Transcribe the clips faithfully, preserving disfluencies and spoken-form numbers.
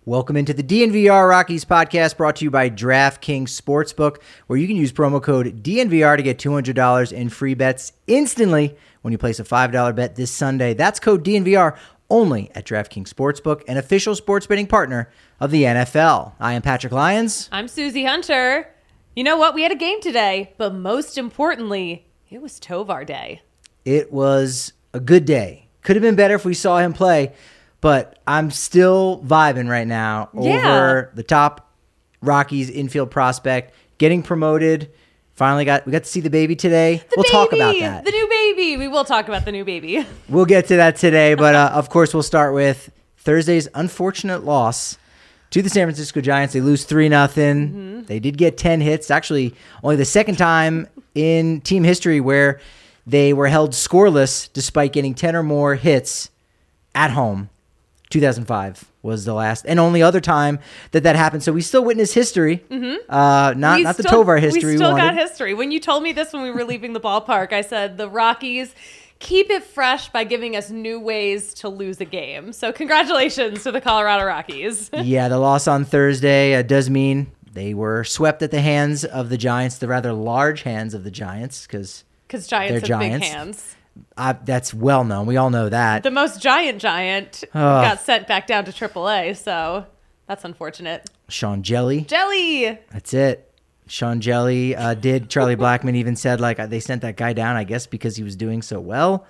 Welcome into the D N V R Rockies podcast brought to you by DraftKings Sportsbook, where you can use promo code D N V R to get two hundred dollars in free bets instantly when you place a five dollar bet this Sunday. That's code D N V R only at DraftKings Sportsbook, an official sports betting partner of the N F L. I am Patrick Lyons. I'm Susie Hunter. You know what? We had a game today, but most importantly, it was Tovar Day. It was a good day. Could have been better if we saw him play, but I'm still vibing right now over Yeah. the top Rockies infield prospect, getting promoted. Finally got we got to see the baby today. The we'll baby, talk about that. The new baby. We will talk about the new baby. We'll get to that today, but uh, of course we'll start with Thursday's unfortunate loss to the San Francisco Giants. They lose three nothing. Mm-hmm. They did get ten hits. Actually, only the second time in team history where they were held scoreless despite getting ten or more hits at home. two thousand five was the last and only other time that that happened. So we still witness history, mm-hmm. uh, not We not the still- Tovar history. We still we got wanted. history. When you told me this when we were leaving the ballpark, I said the Rockies keep it fresh by giving us new ways to lose a game. So congratulations to the Colorado Rockies. Yeah, the loss on Thursday uh, does mean they were swept at the hands of the Giants, the rather large hands of the Giants, because Because Giants They're have Giants. big hands. uh, that's well known. We all know that. The most giant giant Ugh. got sent back down to triple A, so that's unfortunate. Sean Jelly. Jelly! That's it. Sean Jelly uh, did. Charlie Blackmon even said, like, they sent that guy down, I guess, because he was doing so well.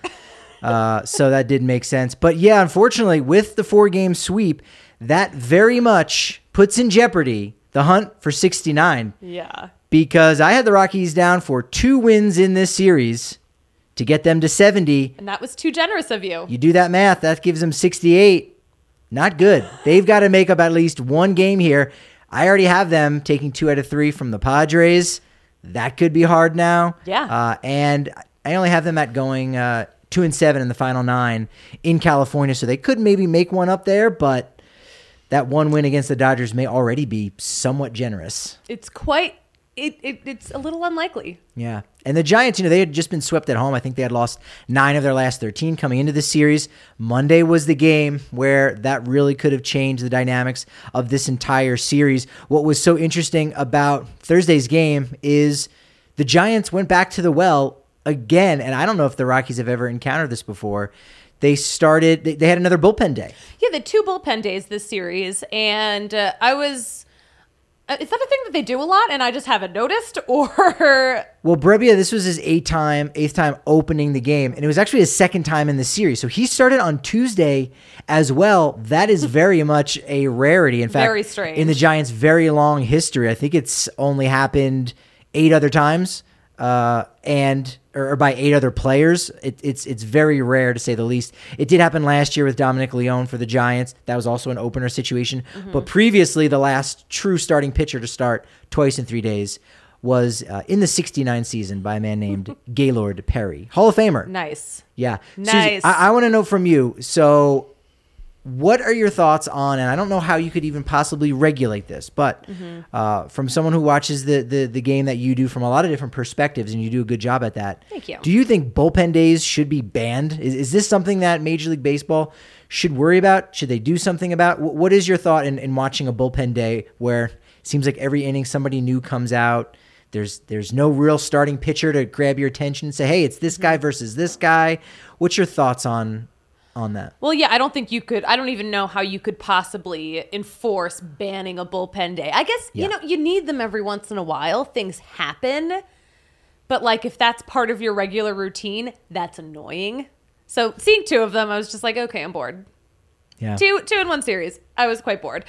Uh, so that did make sense. But yeah, unfortunately, with the four-game sweep, that very much puts in jeopardy the hunt for sixty-nine. Yeah. Because I had the Rockies down for two wins in this series to get them to seventy. And that was too generous of you. You do that math, that gives them sixty-eight. Not good. They've got to make up at least one game here. I already have them taking two out of three from the Padres. That could be hard now. Yeah. Uh, and I only have them at going uh, two and seven in the final nine in California, so they could maybe make one up there, but that one win against the Dodgers may already be somewhat generous. It's quite... It, it It's a little unlikely. Yeah. And the Giants, you know, they had just been swept at home. I think they had lost nine of their last thirteen coming into this series. Monday was the game where that really could have changed the dynamics of this entire series. What was so interesting about Thursday's game is the Giants went back to the well again. And I don't know if the Rockies have ever encountered this before. They started, they, they had another bullpen day. Yeah, the two bullpen days this series, and uh, I was... Uh, is that a thing that they do a lot and I just haven't noticed? Or... Well, Brebbia, this was his eighth time, eighth time opening the game, and it was actually his second time in the series. So he started on Tuesday as well. That is very much a rarity. In fact, Very strange. in the Giants' very long history, I think it's only happened eight other times, uh, and or, or by eight other players. It, it's it's very rare to say the least. It did happen last year with Dominic Leone for the Giants. That was also an opener situation. Mm-hmm. But previously, the last true starting pitcher to start twice in three days was uh, in the sixty-nine season by a man named Gaylord Perry, Hall of Famer. Nice. Yeah. Nice. Susie, I, I want to know from you. So what are your thoughts on, and I don't know how you could even possibly regulate this, but Mm-hmm. uh, from someone who watches the, the the game that you do from a lot of different perspectives, and you do a good job at that. Thank you. Do you think bullpen days should be banned? Is, is this something that Major League Baseball should worry about? Should they do something about? Wh- What is your thought in, in watching a bullpen day where it seems like every inning somebody new comes out? There's there's no real starting pitcher to grab your attention and say, hey, it's this guy versus this guy. What's your thoughts on on that? Well, yeah, I don't think you could. I don't even know how you could possibly enforce banning a bullpen day. I guess, Yeah. you know, you need them every once in a while. Things happen. But, like, if that's part of your regular routine, that's annoying. So, seeing two of them, I was just like, okay, I'm bored. Yeah. Two, two in one series. I was quite bored.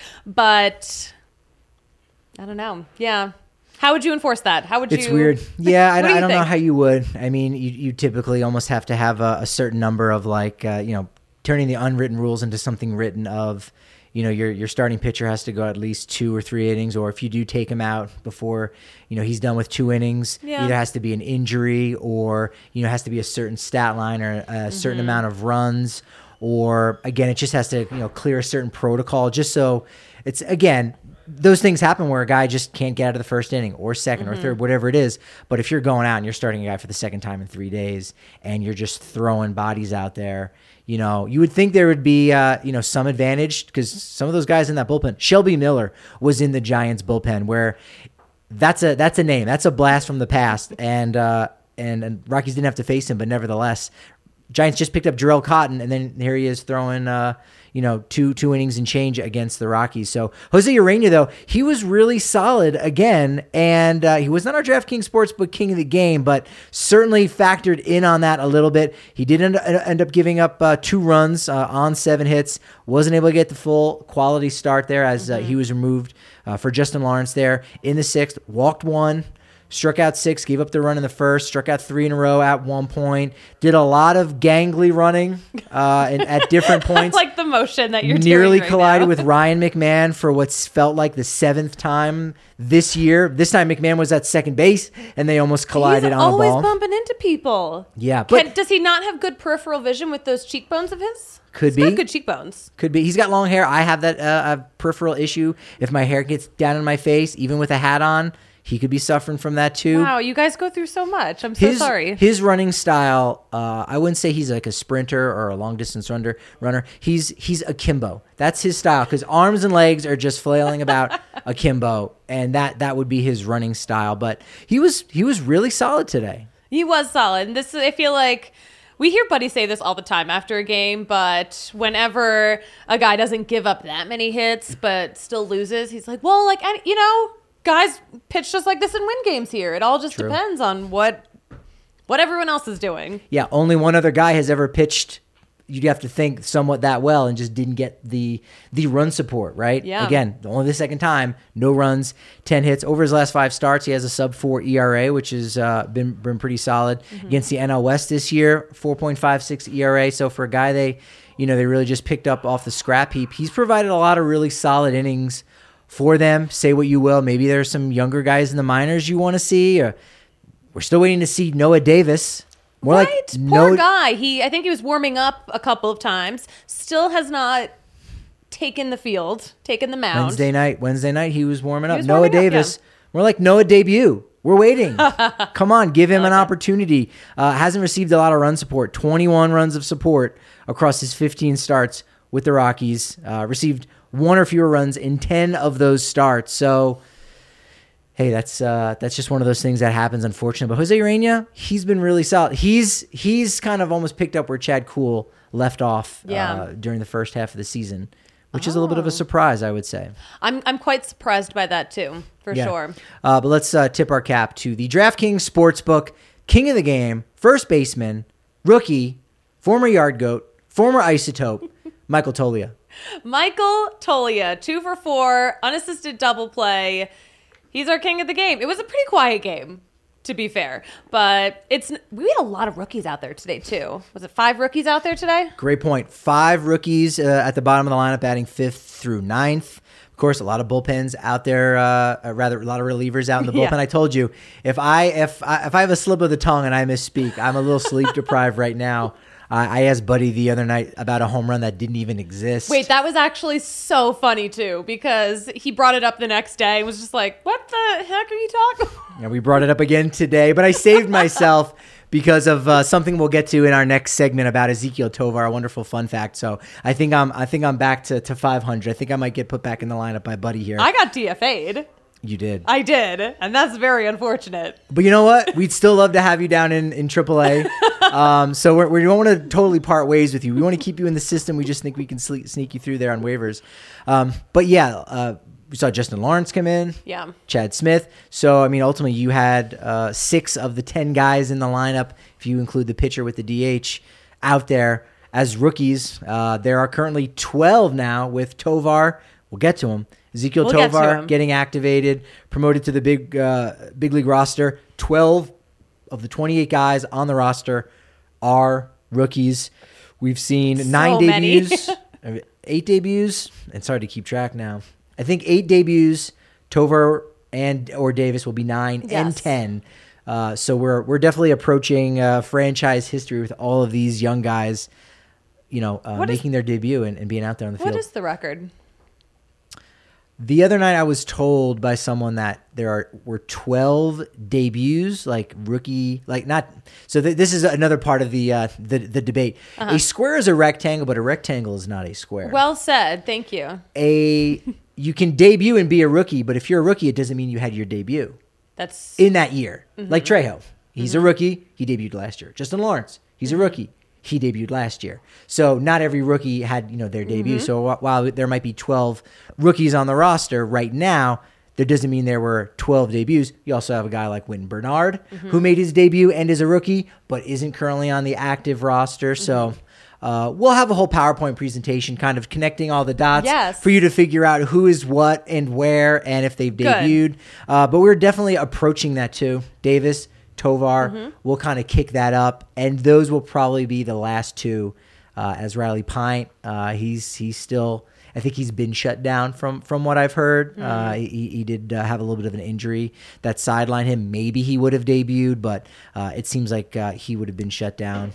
But, I don't know. Yeah. How would you enforce that? How would you? It's weird. Yeah, I, What do I you don't know think? how you would. I mean, you, you typically almost have to have a, a certain number of like, uh, you know, turning the unwritten rules into something written of, you know, your your starting pitcher has to go at least two or three innings, or if you do take him out before, you know, he's done with two innings, Yeah. either has to be an injury or, you know, has to be a certain stat line or a certain Mm-hmm. amount of runs, or again, it just has to, you know, clear a certain protocol just so it's, again, those things happen where a guy just can't get out of the first inning or second Mm-hmm. or third, whatever it is. But if you're going out and you're starting a guy for the second time in three days and you're just throwing bodies out there, You know, you would think there would be, uh, you know, some advantage because some of those guys in that bullpen, Shelby Miller was in the Giants bullpen, where that's a that's a name, that's a blast from the past, and uh, and and Rockies didn't have to face him, but nevertheless, Giants just picked up Jarrell Cotton, and then here he is throwing, uh, you know, two two innings and change against the Rockies. So Jose Urena, though, he was really solid again, and uh, he was not our DraftKings Sportsbook King of the Game, but certainly factored in on that a little bit. He did end, end up giving up uh, two runs uh, on seven hits, wasn't able to get the full quality start there as uh, mm-hmm. he was removed uh, for Justin Lawrence there in the sixth, walked one. Struck out six, gave up the run in the first, struck out three in a row at one point, did a lot of gangly running uh, and at different points. I like the motion that you're nearly doing right collided now. with Ryan McMahon for what's felt like the seventh time this year. This time McMahon was at second base, and they almost collided He's on the ball. always bumping into people. Yeah. But Can, does he not have good peripheral vision with those cheekbones of his? Could He's be. got good cheekbones. Could be. He's got long hair. I have that uh, peripheral issue. If my hair gets down in my face, even with a hat on, he could be suffering from that too. Wow, you guys go through so much. I'm so his, sorry. His running style, uh, I wouldn't say he's like a sprinter or a long distance runner. Runner. He's he's akimbo. That's his style because arms and legs are just flailing about akimbo, and that that would be his running style. But he was he was really solid today. He was solid. And this, I feel like. We hear Buddy say this all the time after a game, but whenever a guy doesn't give up that many hits but still loses, he's like, well, like, I, you know, guys pitch just like this and win games here. It all just True. depends on what what everyone else is doing. Yeah, only one other guy has ever pitched, you'd have to think, somewhat that well and just didn't get the the run support, right? Yeah. Again, only the second time, no runs, ten hits. Over his last five starts, he has a sub four E R A, which has uh, been, been pretty solid. Mm-hmm. Against the N L West this year, four point five six E R A. So for a guy they, you know, they really just picked up off the scrap heap, he's provided a lot of really solid innings for them. Say what you will. Maybe there's some younger guys in the minors you want to see. Or we're still waiting to see Noah Davis. More right? like Poor no, guy. He, I think he was warming up a couple of times. Still has not taken the field, taken the mound. Wednesday night. Wednesday night, he was warming He up. was Noah warming up, Davis. yeah. We're like Noah debut. We're waiting. Come on, give him an opportunity. Uh, hasn't received a lot of run support. twenty-one runs of support across his fifteen starts with the Rockies. Uh, received one or fewer runs in ten of those starts. So, hey, that's uh, that's just one of those things that happens, unfortunately. But Jose Urena, he's been really solid. He's he's kind of almost picked up where Chad Kuhl left off Yeah. uh, during the first half of the season, which is a little bit of a surprise, I would say. I'm I'm quite surprised by that too, for Yeah. sure. Uh, but let's uh, tip our cap to the DraftKings Sportsbook King of the Game, first baseman, rookie, former yard goat, former isotope, Michael Toglia. Michael Toglia, two for four, unassisted double play. He's our king of the game. It was a pretty quiet game, to be fair, but it's we had a lot of rookies out there today too. Was it five rookies out there today? Great point. Five rookies uh, at the bottom of the lineup, batting fifth through ninth. Of course, a lot of bullpens out there. Uh, rather, a lot of relievers out in the bullpen. Yeah. I told you, if I if I, if I have a slip of the tongue and I misspeak, I'm a little sleep deprived right now. Uh, I asked Buddy the other night about a home run that didn't even exist. Wait, that was actually so funny too, because he brought it up the next day and was just like, what the heck are you talking about? Yeah, we brought it up again today, but I saved myself because of uh, something we'll get to in our next segment about Ezequiel Tovar, a wonderful fun fact. So I think I'm I think I'm back to, to five hundred. I think I might get put back in the lineup by Buddy here. I got D F A'd. You did. I did, and that's very unfortunate. But you know what? We'd still love to have you down in, in triple A. Um, so we're, we don't want to totally part ways with you. We want to keep you in the system. We just think we can sle- sneak you through there on waivers. Um, but yeah, uh, we saw Justin Lawrence come in. Yeah. Chad Smith. So, I mean, ultimately you had uh, six of the ten guys in the lineup, if you include the pitcher with the D H, out there as rookies. Uh, there are currently twelve now with Tovar. We'll get to him. Ezequiel We'll get to Tovar him. getting activated, promoted to the big uh, big league roster. twelve of the twenty-eight guys on the roster are rookies. We've seen So nine many. debuts, eight debuts. It's hard to keep track now. I think eight debuts. Tovar and or Davis will be nine and Yes. ten. Uh, so we're we're definitely approaching uh, franchise history with all of these young guys, you know, uh, What is- making their debut and, and being out there on the What field. is the record? The other night I was told by someone that there are were twelve debuts, like rookie, like not. So th- this is another part of the uh, the, the debate. Uh-huh. A square is a rectangle, but a rectangle is not a square. Well said. Thank you. A you can debut and be a rookie, but if you're a rookie, it doesn't mean you had your debut. That's in that year. Mm-hmm. Like Trejo, he's mm-hmm. a rookie. He debuted last year. Justin Lawrence, he's mm-hmm. a rookie. He debuted last year. So not every rookie had, you know, their debut. Mm-hmm. So while there might be twelve rookies on the roster right now, that doesn't mean there were twelve debuts. You also have a guy like Wynton Bernard, mm-hmm. who made his debut and is a rookie, but isn't currently on the active roster. Mm-hmm. So uh, we'll have a whole PowerPoint presentation kind of connecting all the dots yes. for you to figure out who is what and where and if they've debuted. Uh, but we're definitely approaching that too. Davis, Tovar, mm-hmm. we'll kind of kick that up, and those will probably be the last two. Uh, as Riley Pint, uh, he's he's still, I think he's been shut down from from what I've heard. Mm-hmm. Uh, he, he did uh, have a little bit of an injury that sidelined him. Maybe he would have debuted, but uh, it seems like uh, he would have been shut down.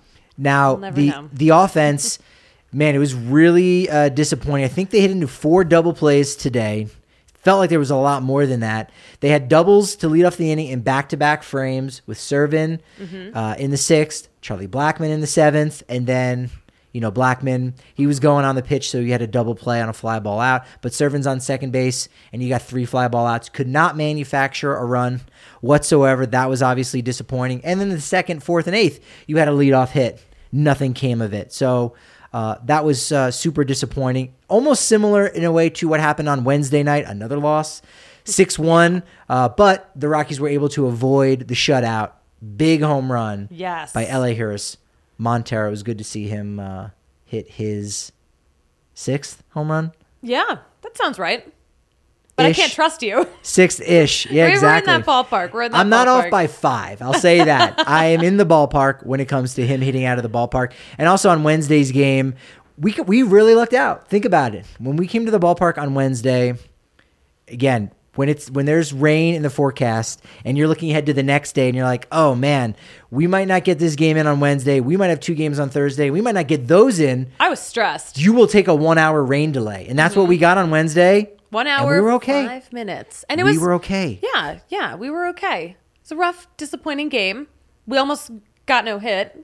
Now we'll the know. the offense, man, it was really uh, disappointing. I think they hit into four double plays today. Felt like there was a lot more than that. They had doubles to lead off the inning in back-to-back frames with Servin mm-hmm. uh, in the sixth, Charlie Blackmon in the seventh, and then, you know, Blackmon, he was going on the pitch, so he had a double play on a fly ball out. But Servin's on second base, and you got three fly ball outs. Could not manufacture a run whatsoever. That was obviously disappointing. And then the second, fourth, and eighth, you had a leadoff hit. Nothing came of it. So uh, that was uh, super disappointing. Almost similar in a way to what happened on Wednesday night, another loss, six one. Uh, but the Rockies were able to avoid the shutout. Big home run yes. by Elehuris Montero. It was good to see him uh, hit his sixth home run. Yeah, that sounds right. But Ish. I can't trust you. Sixth-ish. Yeah, we're, exactly. We're in that ballpark. We're in that I'm ballpark. not off by five. I'll say that. I am in the ballpark when it comes to him hitting out of the ballpark. And also on Wednesday's game, we we really lucked out. Think about it. When we came to the ballpark on Wednesday, again, when it's when there's rain in the forecast and you're looking ahead to the next day and you're like, oh man, we might not get this game in on Wednesday. We might have two games on Thursday. We might not get those in. I was stressed. You will take a one-hour rain delay. And that's mm-hmm. what we got on Wednesday. One hour, and we were okay. five minutes. And it was, we were okay. Yeah, yeah, we were okay. It's a rough, disappointing game. We almost got no hit.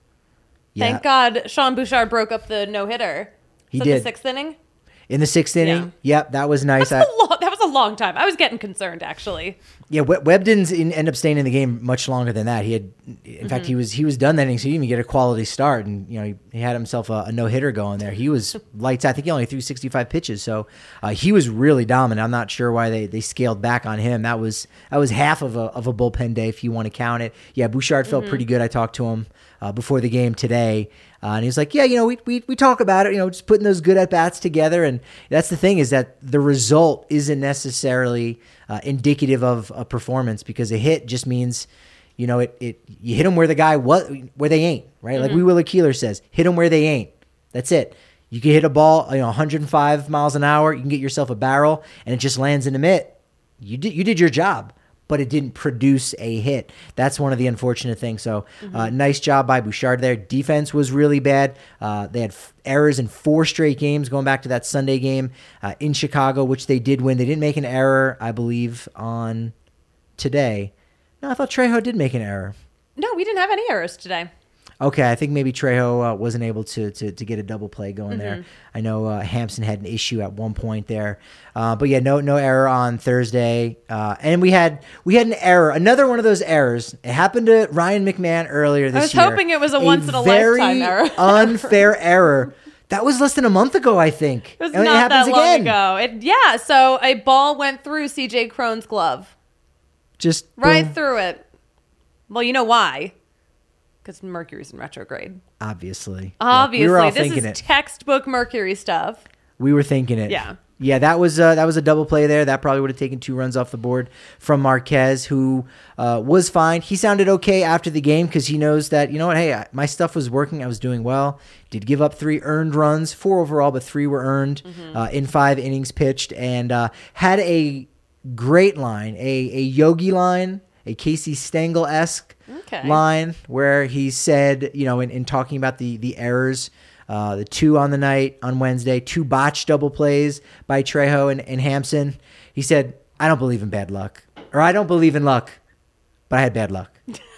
Yeah. Thank God Sean Bouchard broke up the no-hitter. He so did. The sixth inning? In the sixth inning? Yeah. Yep, that was nice. That's I, a long, that was a long time. I was getting concerned, actually. Yeah, Webb didn't end up staying in the game much longer than that. He had, in mm-hmm. fact, he was he was done that inning, so he didn't even get a quality start, and you know he, he had himself a, a no hitter going there. He was lights out. I think he only threw sixty-five pitches, so uh, he was really dominant. I'm not sure why they, they scaled back on him. That was that was half of a of a bullpen day if you want to count it. Yeah, Bouchard felt mm-hmm. pretty good. I talked to him uh, before the game today. Uh, and he was like, yeah, you know, we, we we talk about it, you know, just putting those good at-bats together. And that's the thing is that the result isn't necessarily uh, indicative of a performance because a hit just means, you know, it, it you hit them where the guy, what, where they ain't, right? Mm-hmm. Like Wee Willie Keeler says, hit them where they ain't. That's it. You can hit a ball, you know, one hundred five miles an hour. You can get yourself a barrel and it just lands in the mitt. You did, you did your job. But it didn't produce a hit. That's one of the unfortunate things. So mm-hmm. uh, nice job by Bouchard there. Defense was really bad. Uh, they had f- errors in four straight games, going back to that Sunday game uh, in Chicago, which they did win. They didn't make an error, I believe, on today. No, I thought Trejo did make an error. No, we didn't have any errors today. Okay, I think maybe Trejo uh, wasn't able to, to to get a double play going mm-hmm. there. I know uh, Hampson had an issue at one point there, uh, but yeah, no no error on Thursday, uh, and we had we had an error, another one of those errors. It happened to Ryan McMahon earlier this year. I was year. hoping it was a, a once in a lifetime error. Unfair error. That was less than a month ago, I think. It was and not it happens that long again. ago. It, yeah, so a ball went through C J Cron's glove, just right boom. through it. Well, you know why. Because Mercury's in retrograde. Obviously. Obviously. We were all this thinking is it. textbook Mercury stuff. We were thinking it. Yeah. Yeah, that was uh, that was a double play there. That probably would have taken two runs off the board from Marquez, who uh, was fine. He sounded okay after the game because he knows that, you know what, hey, I, my stuff was working. I was doing well. Did give up three earned runs, four overall, but three were earned mm-hmm. uh, in five innings pitched, and uh, had a great line, a, a Yogi line, a Casey Stengel-esque okay. line where he said, you know, in, in talking about the the errors Uh, the two on the night on Wednesday, two botched double plays by Trejo and, and Hampson. He said, I don't believe in bad luck, or I don't believe in luck, but I had bad luck.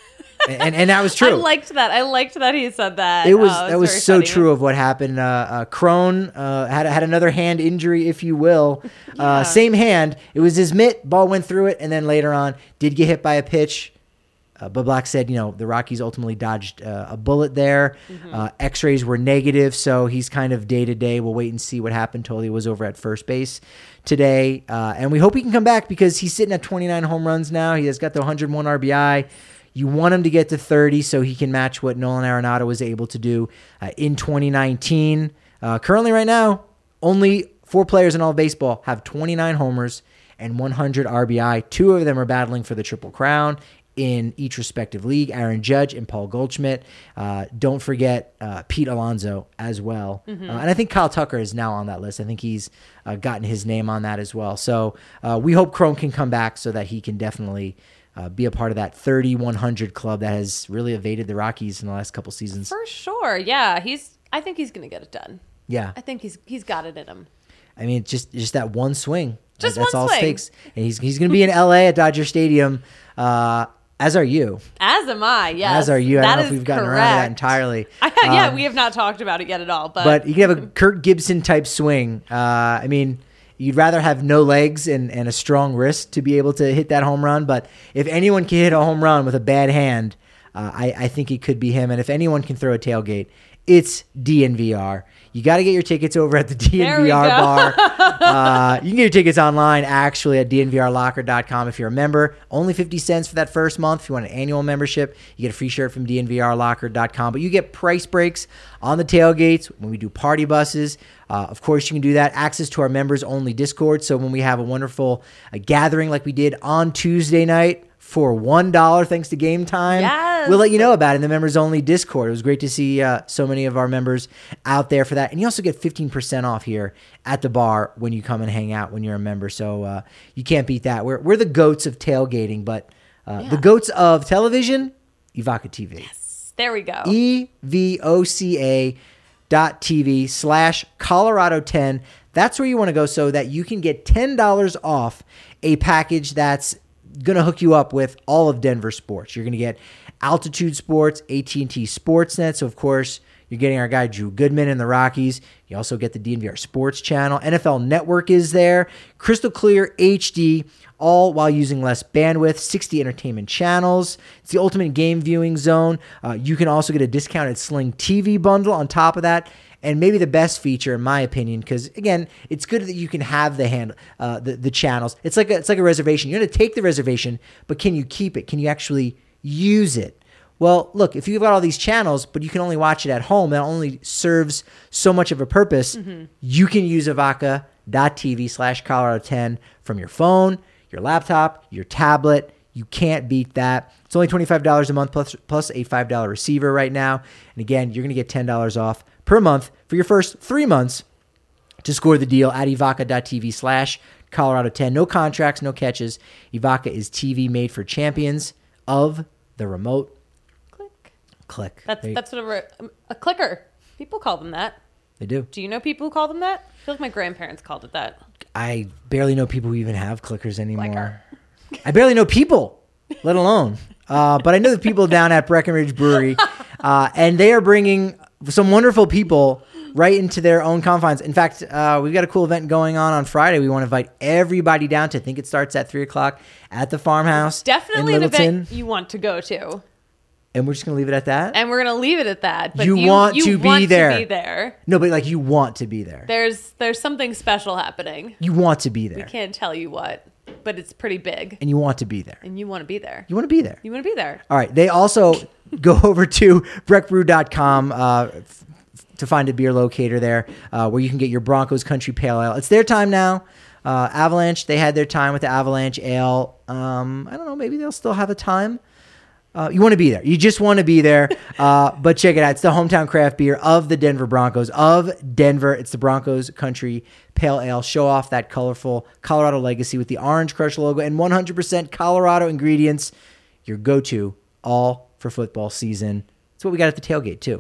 and, and that was true. I liked that. I liked that he said that. It was oh, it that was was so funny. true of what happened. Uh, uh, Crone uh, had had another hand injury, if you will. Yeah. Uh, same hand. It was his mitt. Ball went through it, and then later on did get hit by a pitch. Uh, but Black said, you know, the Rockies ultimately dodged uh, a bullet there. Mm-hmm. Uh, X-rays were negative, so he's kind of day to day. We'll wait and see what happened till he was over at first base today, uh, and we hope he can come back because he's sitting at twenty-nine home runs now. He has got the one hundred one R B I. You want him to get to thirty so he can match what Nolan Arenado was able to do uh, in twenty nineteen. Uh, currently, right now, only four players in all of baseball have twenty-nine homers and one hundred R B I. Two of them are battling for the Triple Crown in each respective league, Aaron Judge and Paul Goldschmidt. Uh, don't forget uh, Pete Alonso as well. Mm-hmm. Uh, and I think Kyle Tucker is now on that list. I think he's uh, gotten his name on that as well. So uh, we hope Crone can come back so that he can definitely uh, be a part of that thirty-one hundred club that has really evaded the Rockies in the last couple seasons. For sure. Yeah. He's, I think he's going to get it done. Yeah. I think he's, he's got it in him. I mean, just, just that one swing. Just That's one all swing. it takes. And he's, he's going to be in L A at Dodger Stadium. Uh, As are you. As am I, yes. As are you. I That don't know if is we've gotten correct. around to that entirely. I, yeah, Um, we have not talked about it yet at all. But, But you can have a Kirk Gibson type swing. Uh, I mean, you'd rather have no legs and, and a strong wrist to be able to hit that home run. But if anyone can hit a home run with a bad hand, uh, I, I think it could be him. And if anyone can throw a tailgate, it's D N V R. You got to get your tickets over at the D N V R bar. uh, you can get your tickets online, actually, at D N V R locker dot com if you're a member. Only fifty cents for that first month. If you want an annual membership, you get a free shirt from D N V R locker dot com. But you get price breaks on the tailgates when we do party buses. Uh, of course, you can do that. Access to our members-only Discord. So when we have a wonderful uh, gathering like we did on Tuesday night, for one dollar, thanks to Game Time. Yes. We'll let you know about it in the members-only Discord. It was great to see uh, so many of our members out there for that. And you also get fifteen percent off here at the bar when you come and hang out when you're a member. So uh, you can't beat that. We're we're the goats of tailgating, but uh, Yeah. the goats of television, Evoca T V. yes, there we go. E V O C A dot TV slash Colorado ten. That's where you want to go so that you can get ten dollars off a package that's going to hook you up with all of Denver sports. You're going to get Altitude Sports, A T and T Sportsnet. So, of course, you're getting our guy Drew Goodman in the Rockies. You also get the D N V R Sports Channel. N F L Network is there. Crystal Clear H D, all while using less bandwidth. sixty entertainment channels. It's the ultimate game viewing zone. Uh, you can also get a discounted Sling T V bundle on top of that. And maybe the best feature, in my opinion, because again, it's good that you can have the hand, uh, the the channels. It's like a, it's like a reservation. You're going to take the reservation, but can you keep it? Can you actually use it? Well, look, if you've got all these channels, but you can only watch it at home, that only serves so much of a purpose. Mm-hmm. You can use Evoca dot T V slash Colorado ten from your phone, your laptop, your tablet. You can't beat that. It's only twenty-five dollars a month plus plus a five dollars receiver right now. And again, you're going to get ten dollars off per month for your first three months to score the deal at Evoca dot T V slash Colorado ten. No contracts, no catches. Evoca is T V made for champions of the remote. Click. Click. That's There you- that's what a, re- a clicker. People call them that. They do. Do you know people who call them that? I feel like my grandparents called it that. I barely know people who even have clickers anymore. Clicker. I barely know people, let alone. Uh, but I know the people down at Breckenridge Brewery, uh, and they are bringing some wonderful people right into their own confines. In fact, uh, we've got a cool event going on on Friday. We want to invite everybody down to, I think it starts at three o'clock at the farmhouse. Definitely in an Littleton. event you want to go to. And we're just going to leave it at that? And we're going to leave it at that. But You you, want you to be want there. To be there. No, but like you want to be there. There's there's something special happening. You want to be there. We can't tell you what, but it's pretty big. And you want to be there. And you want to be there. You want to be there. You want to be there. All right. They also go over to breck brew dot com uh, f- to find a beer locator there uh, where you can get your Broncos Country Pale Ale. It's their time now. Uh, Avalanche, they had their time with the Avalanche Ale. Um, I don't know. Maybe they'll still have a time. Uh, you want to be there. You just want to be there. Uh, but check it out. It's the hometown craft beer of the Denver Broncos, of Denver. It's the Broncos Country Pale Ale. Show off that colorful Colorado legacy with the Orange Crush logo and one hundred percent Colorado ingredients. Your go-to all for football season. It's what we got at the tailgate, too.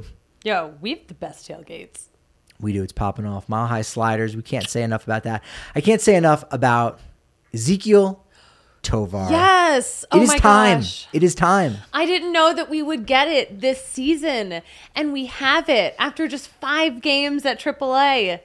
Yo, we have the best tailgates. We do. It's popping off. Mile High Sliders. We can't say enough about that. I can't say enough about Ezequiel Tovar. Yes. Oh it is my time. gosh. It is time. I didn't know that we would get it this season, and we have it after just five games at triple A.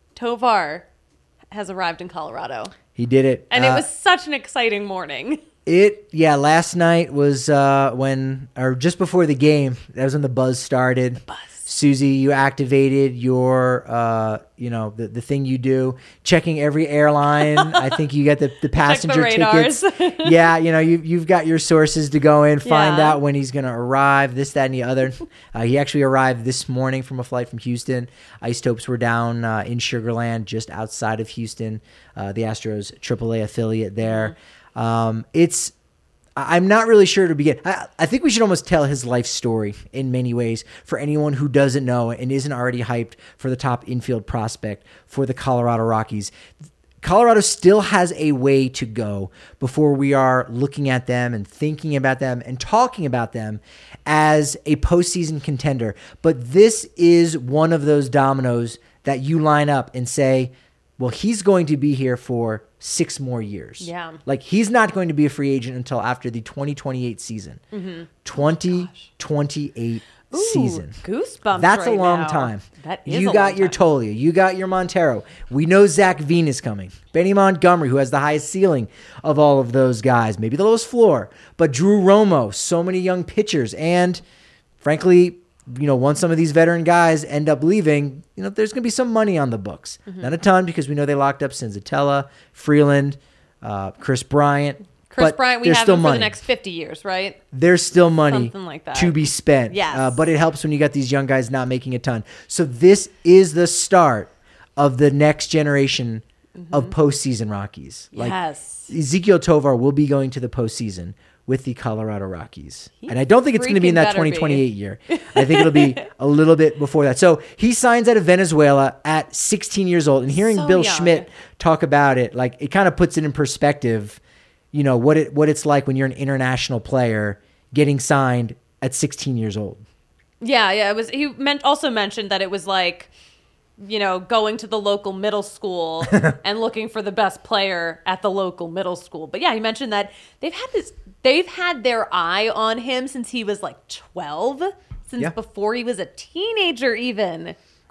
Tovar has arrived in Colorado. He did it. And Uh, it was such an exciting morning. It, yeah, last night was uh, when, or just before the game, that was when the buzz started. The buzz. Susie, you activated your, uh, you know, the, the thing you do, checking every airline. I think you got the, the passenger radars. tickets. Yeah, you know, you, you've got your sources to go in, find Yeah. out when he's going to arrive, this, that, and the other. Uh, he actually arrived this morning from a flight from Houston. Isotopes were down uh, in Sugar Land, just outside of Houston, uh, the Astros triple A affiliate there. Mm-hmm. Um, it's, I'm not really sure to begin. I, I think we should almost tell his life story in many ways for anyone who doesn't know and isn't already hyped for the top infield prospect for the Colorado Rockies. Colorado still has a way to go before we are looking at them and thinking about them and talking about them as a postseason contender. But this is one of those dominoes that you line up and say, well, he's going to be here for six more years. Yeah. Like, he's not going to be a free agent until after the twenty twenty-eight season. Mm-hmm. twenty twenty-eight Ooh, season. Goosebumps. That's right a long now. time. That is You a got long your time. Tolia. You got your Montero. We know Zach Veen is coming. Benny Montgomery, who has the highest ceiling of all of those guys. Maybe the lowest floor. But Drew Romo, so many young pitchers. And frankly, you know, once some of these veteran guys end up leaving, you know, there's going to be some money on the books. Mm-hmm. Not a ton, because we know they locked up Senzatella, Freeland, uh, Chris Bryant. Chris but Bryant, we there's have still him for money. the next fifty years, right? There's still money Something like that. to be spent. Yes. Uh, but it helps when you got these young guys not making a ton. So this is the start of the next generation mm-hmm. of postseason Rockies. Like, yes. Ezequiel Tovar will be going to the postseason with the Colorado Rockies. He and I don't think it's going to be in that freaking better twenty twenty-eight be. year. I think it'll be a little bit before that. So he signs out of Venezuela at sixteen years old. And hearing So Bill young. Schmidt talk about it, like, it kind of puts it in perspective, you know, what it what it's like when you're an international player getting signed at sixteen years old. Yeah, yeah. It was. He meant also mentioned that it was like, you know, going to the local middle school and looking for the best player at the local middle school. But yeah, he mentioned that they've had this. They've had their eye on him since he was like twelve, since Yeah. before he was a teenager, even.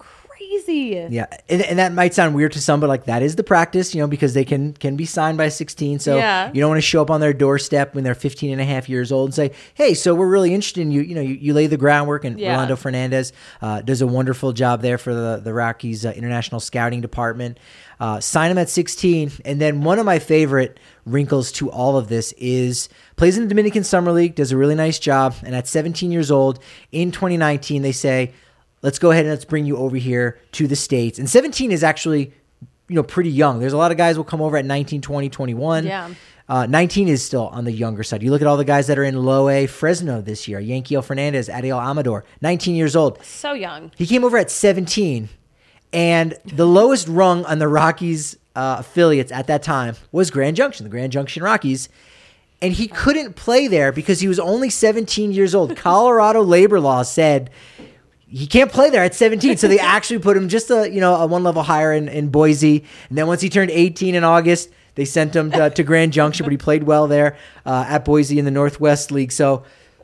Crazy. Yeah, and, and that might sound weird to some, but like, that is the practice, you know, because they can can be signed by sixteen. So Yeah. you don't want to show up on their doorstep when they're fifteen and a half years old and say, hey, so we're really interested in you. You know, you, you lay the groundwork, and Yeah. Rolando Fernandez uh, does a wonderful job there for the, the Rockies uh, international scouting department. Uh, sign him at sixteen. And then one of my favorite wrinkles to all of this is plays in the Dominican Summer League, does a really nice job. And at seventeen years old in twenty nineteen, they say, let's go ahead and let's bring you over here to the States. And seventeen is actually, you know, pretty young. There's a lot of guys who will come over at nineteen, twenty, twenty-one. Yeah. Uh, nineteen is still on the younger side. You look at all the guys that are in low A Fresno this year. Yanquiel Fernandez, Adiel Amador, nineteen years old. So young. He came over at seventeen. And the lowest rung on the Rockies uh, affiliates at that time was Grand Junction, the Grand Junction Rockies. And he couldn't play there because he was only seventeen years old. Colorado labor law said he can't play there at seventeen. So they actually put him just a, you know, a one level higher in, in Boise. And then once he turned eighteen in August, they sent him to, to Grand Junction, but he played well there uh, at Boise in the Northwest League. So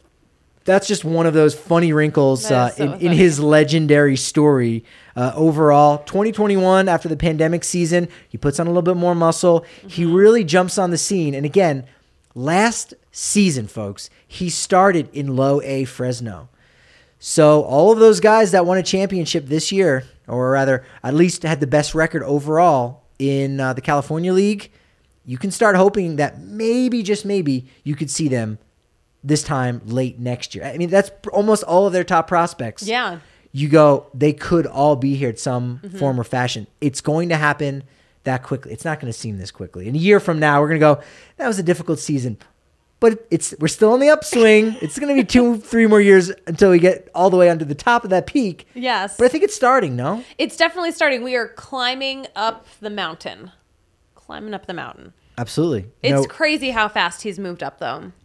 that's just one of those funny wrinkles That uh, is so in, in funny. his legendary story. Uh, overall, twenty twenty-one, after the pandemic season, he puts on a little bit more muscle. Mm-hmm. He really jumps on the scene. And again, last season, folks, he started in low A Fresno. So all of those guys that won a championship this year, or rather at least had the best record overall in uh, the California League, you can start hoping that maybe, just maybe, you could see them this time late next year. I mean, that's almost all of their top prospects. Yeah. You go, they could all be here at some Mm-hmm. form or fashion. It's going to happen that quickly. It's not going to seem this quickly. In a year from now, we're going to go, that was a difficult season. But it's we're still on the upswing. It's going to be two, three more years until we get all the way onto the top of that peak. Yes. But I think it's starting, no? It's definitely starting. We are climbing up the mountain. Climbing up the mountain. Absolutely. It's No- crazy how fast he's moved up, though. Yeah.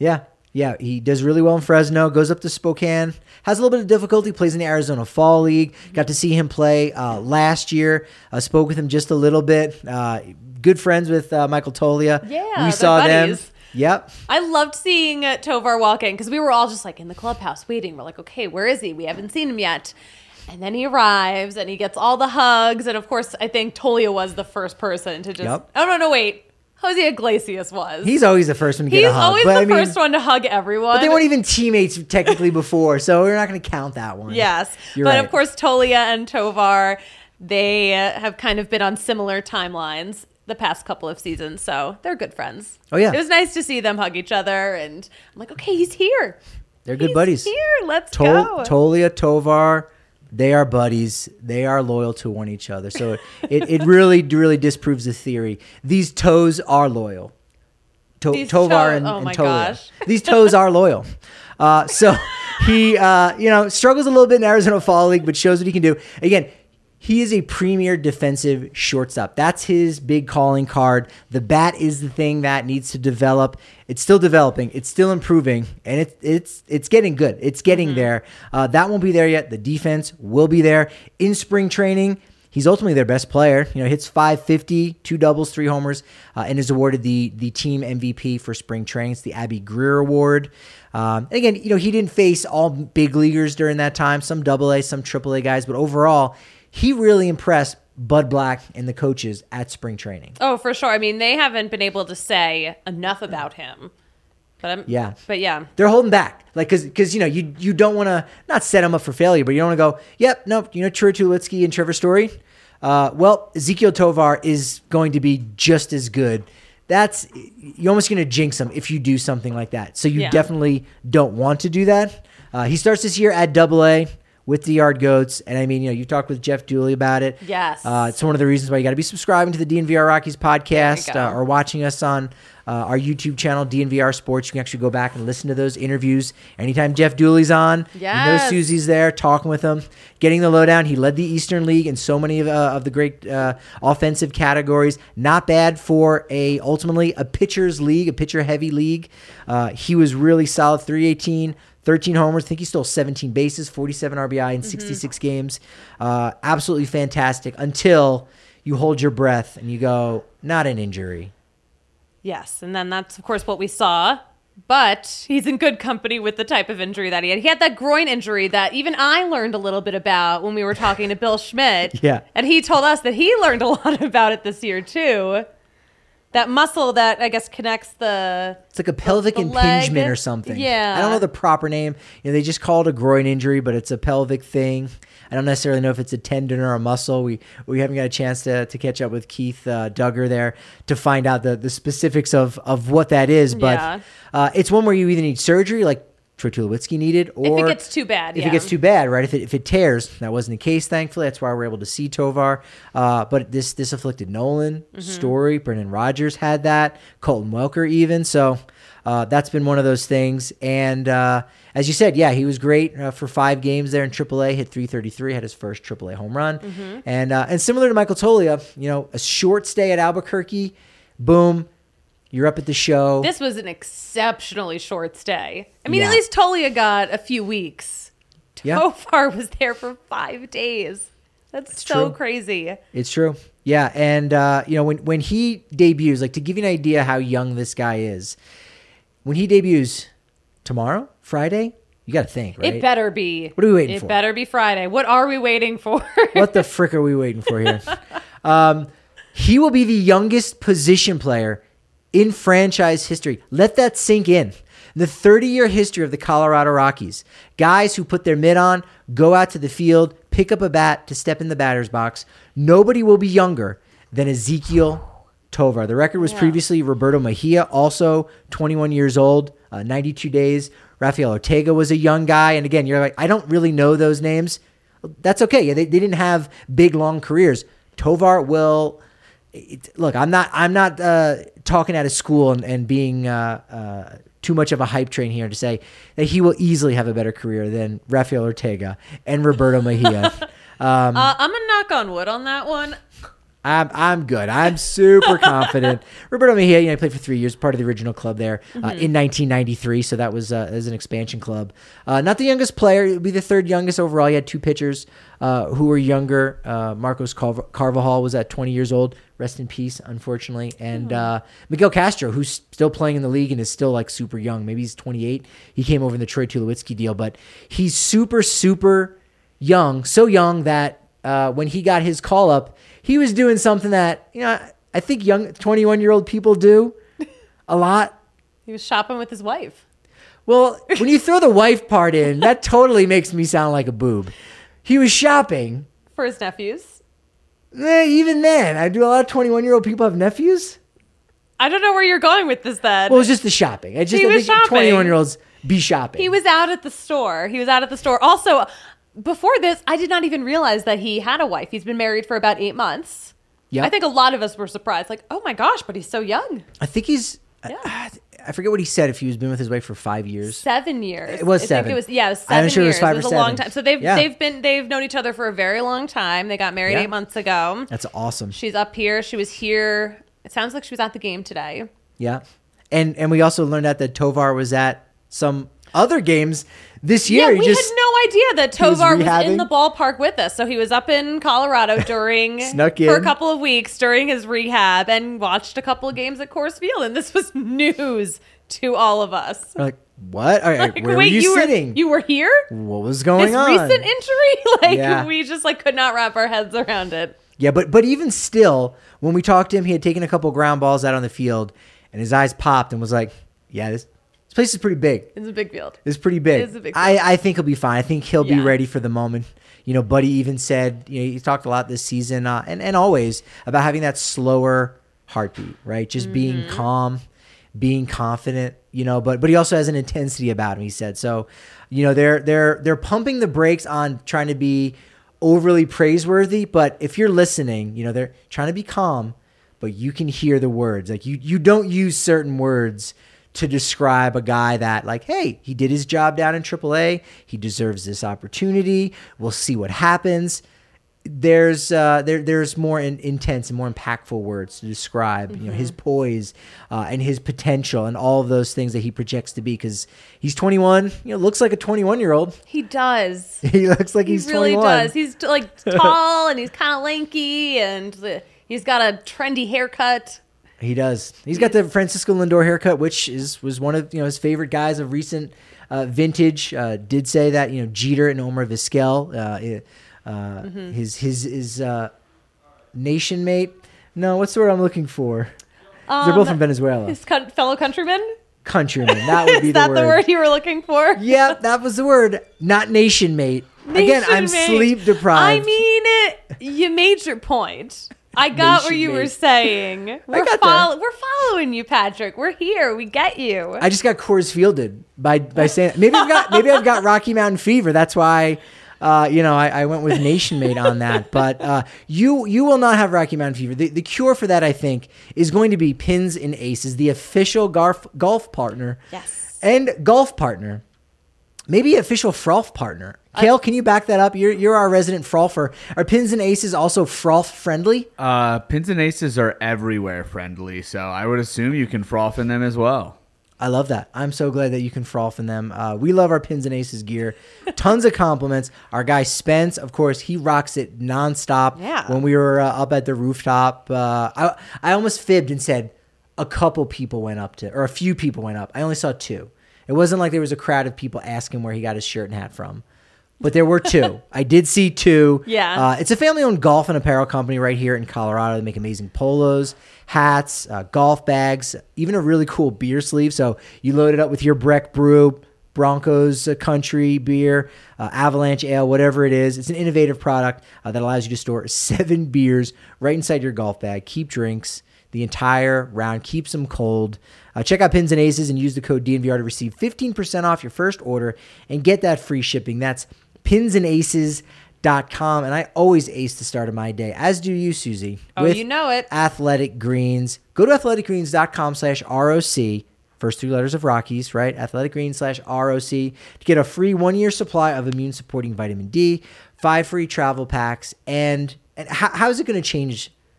Yeah, he does really well in Fresno, goes up to Spokane, has a little bit of difficulty, plays in the Arizona Fall League. Got to see him play uh, last year. Uh, spoke with him just a little bit. Uh, good friends with uh, Michael Tolia. Yeah, we they're saw buddies. them. Yep. I loved seeing uh, Tovar walk in because we were all just like in the clubhouse waiting. We're like, okay, where is he? We haven't seen him yet. And then he arrives and he gets all the hugs. And of course, I think Tolia was the first person to just, Yep. oh, no, no, wait. Jose Iglesias was. He's always the first one to get He's a hug. always but the I mean, first one to hug everyone. But they weren't even teammates technically before, so we're not going to count that one. Yes. You're but right. of course, Tolia and Tovar, they uh, have kind of been on similar timelines the past couple of seasons, so they're good friends. Oh, yeah. It was nice to see them hug each other, and I'm like, okay, he's here. They're good He's buddies. here. Let's Tol- go. Tolia, Tovar, they are buddies. They are loyal to one each other. So it, it really, really disproves the theory. These toes are loyal. To- These Tovar toes- and, oh and my Tolia. gosh. These toes are loyal. Uh, so he, uh, you know, struggles a little bit in Arizona Fall League, but shows what he can do. Again, he is a premier defensive shortstop. That's his big calling card. The bat is the thing that needs to develop. It's still developing. It's still improving, and it's it's it's getting good. It's getting Mm-hmm. there. Uh, that won't be there yet. The defense will be there in spring training. He's ultimately their best player. You know, hits five fifty, two doubles, three homers, uh, and is awarded the the team M V P for spring training. It's the Abby Greer Award. Um, and again, you know, he didn't face all big leaguers during that time. Some double A, some triple A guys, but overall, he really impressed Bud Black and the coaches at spring training. Oh, for sure. I mean, they haven't been able to say enough about him. But I'm, Yeah. But yeah. They're holding back. Like, cause, cause, you know, you, you don't want to not set him up for failure, but you don't want to go, yep, nope, you know, Troy Tulowitzki and Trevor Story. Uh, well, Ezequiel Tovar is going to be just as good. That's, you're almost going to jinx him if you do something like that. So you Yeah. definitely don't want to do that. Uh, he starts this year at double A with the Yard Goats. And I mean, you know, you talked with Jeff Dooley about it. Yes. Uh, it's one of the reasons why you got to be subscribing to the D N V R Rockies podcast go. uh, or watching us on uh, our YouTube channel, D N V R Sports. You can actually go back and listen to those interviews. Anytime Jeff Dooley's on, you know Yes. Susie's there talking with him, getting the lowdown. He led the Eastern League in so many of, uh, of the great uh, offensive categories. Not bad for a ultimately a pitcher's league, a pitcher-heavy league. Uh, he was really solid, three eighteen. thirteen homers. I think he stole seventeen bases, forty-seven R B I in sixty-six games. Uh, absolutely fantastic until you hold your breath and you go, not an injury. Yes. And then that's, of course, what we saw. But he's in good company with the type of injury that he had. He had that groin injury that even I learned a little bit about when we were talking to Bill Schmidt. Yeah. And he told us that he learned a lot about it this year, too. That muscle that, I guess, connects the... It's like a pelvic the impingement leg. or something. Yeah. I don't know the proper name. You know, they just call it a groin injury, but it's a pelvic thing. I don't necessarily know if it's a tendon or a muscle. We we haven't got a chance to, to catch up with Keith uh, Duggar there to find out the, the specifics of, of what that is. But Yeah. uh, it's one where you either need surgery, like Troy Tulowitzki needed, or If it gets too bad, if yeah. it gets too bad, right? If it if it tears, that wasn't the case, thankfully. That's why we're able to see Tovar. Uh, but this this afflicted Nolan, Mm-hmm. Story, Brendan Rodgers had that, Colton Welker even. So uh, that's been one of those things. And uh, as you said, yeah, he was great uh, for five games there in triple A. Hit three thirty-three, had his first triple A home run. Mm-hmm. And uh, and similar to Michael Tolia, you know, a short stay at Albuquerque, boom. You're up at the show. This was an exceptionally short stay. I mean, Yeah. at least Tolia got a few weeks. Yeah. Tofar was there for five days. That's It's so true. crazy. It's true. Yeah, and uh, you know when when he debuts, like to give you an idea how young this guy is, when he debuts tomorrow, Friday, you got to think, right? It better be. What are we waiting it for? It better be Friday. What are we waiting for? What the frick are we waiting for here? um, he will be the youngest position player in franchise history. Let that sink in. The thirty-year history of the Colorado Rockies. Guys who put their mitt on, go out to the field, pick up a bat to step in the batter's box. Nobody will be younger than Ezequiel Tovar. The record was Yeah. previously Roberto Mejia, also twenty-one years old, uh, ninety-two days. Rafael Ortega was a young guy. And again, you're like, I don't really know those names. That's okay. Yeah, they, they didn't have big, long careers. Tovar will... It, look, I'm not I'm not uh, talking out of school and, and being uh, uh, too much of a hype train here to say that he will easily have a better career than Rafael Ortega and Roberto Mejia. Um, uh, I'm going to knock on wood on that one. I'm I'm good. I'm super confident. Roberto Mejia, you know, he played for three years, part of the original club there uh, mm-hmm. in nineteen ninety-three. So that was uh, as an expansion club. Uh, not the youngest player. It would be the third youngest overall. He had two pitchers uh, who were younger. Uh, Marcos Carv- Carvajal was at twenty years old. Rest in peace, unfortunately. And uh, Miguel Castro, who's still playing in the league and is still like super young. Maybe he's twenty-eight. He came over in the Troy Tulowitzki deal, but he's super, super young. So young that uh, when he got his call up, he was doing something that, you know, I think young twenty-one-year-old people do a lot. He was shopping with his wife. Well, when you throw the wife part in, that totally makes me sound like a boob. He was shopping. For his nephews. Eh, even then, I do a lot of twenty-one-year-old people have nephews. I don't know where you're going with this then. Well, it was just the shopping. I just he I was think shopping. twenty-one-year-olds be shopping. He was out at the store. He was out at the store. Also, before this, I did not even realize that he had a wife. He's been married for about eight months. Yeah, I think a lot of us were surprised. Like, oh my gosh, but he's so young. I think he's. Yeah. I, I forget what he said. If he was been with his wife for five years, seven years. It was I seven. Think it was yeah, it was seven I'm sure years. it was five it was or a seven. long time. So they've yeah. they've been they've known each other for a very long time. They got married yeah. eight months ago. That's awesome. She's up here. She was here. It sounds like she was at the game today. Yeah, and and we also learned that that Tovar was at some other games this year. Yeah, he we just, had no idea that Tovar was, was in the ballpark with us. So he was up in Colorado during Snuck in. for a couple of weeks during his rehab and watched a couple of games at Coors Field. And this was news to all of us. We're like, what? All right, like, where wait, were you, you sitting? Were, you were here? What was going this on? Recent injury? Like yeah. we just like could not wrap our heads around it. Yeah, but but even still, when we talked to him, he had taken a couple ground balls out on the field, and his eyes popped and was like, "Yeah, this this place is pretty big. It's a big field. It's pretty big. It is a big I I think he'll be fine. I think he'll yeah. be ready for the moment." You know, Buddy even said, you know, he talked a lot this season uh, and and always about having that slower heartbeat, right? Just mm-hmm. being calm, being confident. You know, but but he also has an intensity about him. He said so. You know, they're they're they're pumping the brakes on trying to be overly praiseworthy, but if you're listening, you know, they're trying to be calm, but you can hear the words. Like you you don't use certain words to describe a guy that like, hey, he did his job down in triple A. He deserves this opportunity. We'll see what happens. There's uh, there there's more in, intense and more impactful words to describe mm-hmm. you know his poise uh, and his potential and all of those things that he projects to be, because he's twenty-one. You know, looks like a twenty-one year old. He does. He looks like he he's really twenty-one. Does. He's like tall and he's kind of lanky and he's got a trendy haircut. He does. He's got the Francisco Lindor haircut, which is was one of you know his favorite guys of recent uh, vintage. Uh, did say that you know Jeter and Omar Vizquel. Uh, Uh, mm-hmm. His his his uh, nation mate. No, what's the word I'm looking for? Um, They're both from Venezuela. His co- fellow countrymen. Countrymen. That would be Is the that word. the word you were looking for? Yeah, that was the word. Not nation mate. Nation Again, I'm mate. sleep deprived. I mean it. You made your point. I got what you mate. were saying. We're, follow- we're following you, Patrick. We're here. We get you. I just got Coors Fielded by by saying maybe I've got maybe I've got Rocky Mountain fever. That's why. Uh, you know, I, I went with Nation Mate on that, but uh, you you will not have Rocky Mountain fever. The, the cure for that, I think, is going to be Pins and Aces, the official golf golf partner, yes, and golf partner, maybe official frolf partner. Kale, can you back that up? You're you're our resident frolfer. Are Pins and Aces also frolf friendly? Uh, Pins and Aces are everywhere friendly, so I would assume you can froth in them as well. I love that. I'm so glad that you can froth in them. Uh, we love our Pins and Aces gear. Tons of compliments. Our guy Spence, of course, he rocks it nonstop. Yeah. When we were uh, up at the rooftop, uh, I I almost fibbed and said a couple people went up to, or a few people went up. I only saw two. It wasn't like there was a crowd of people asking where he got his shirt and hat from. But there were two. I did see two. Yeah. Uh, it's a family-owned golf and apparel company right here in Colorado. They make amazing polos, hats, uh, golf bags, even a really cool beer sleeve. So you load it up with your Breck Brew, Broncos uh, Country beer, uh, Avalanche Ale, whatever it is. It's an innovative product uh, that allows you to store seven beers right inside your golf bag. Keep drinks the entire round. Keeps them cold. Uh, check out Pins and Aces and use the code D N V R to receive fifteen percent off your first order and get that free shipping. That's pins and aces dot com, and I always ace the start of my day, as do you, Susie. Oh, with you know it. Athletic Greens. Go to athletic greens dot com slash R O C, first three letters of Rockies, right? athletic greens slash R O C to get a free one-year supply of immune-supporting vitamin D, five free travel packs, and, and how, how is it going to change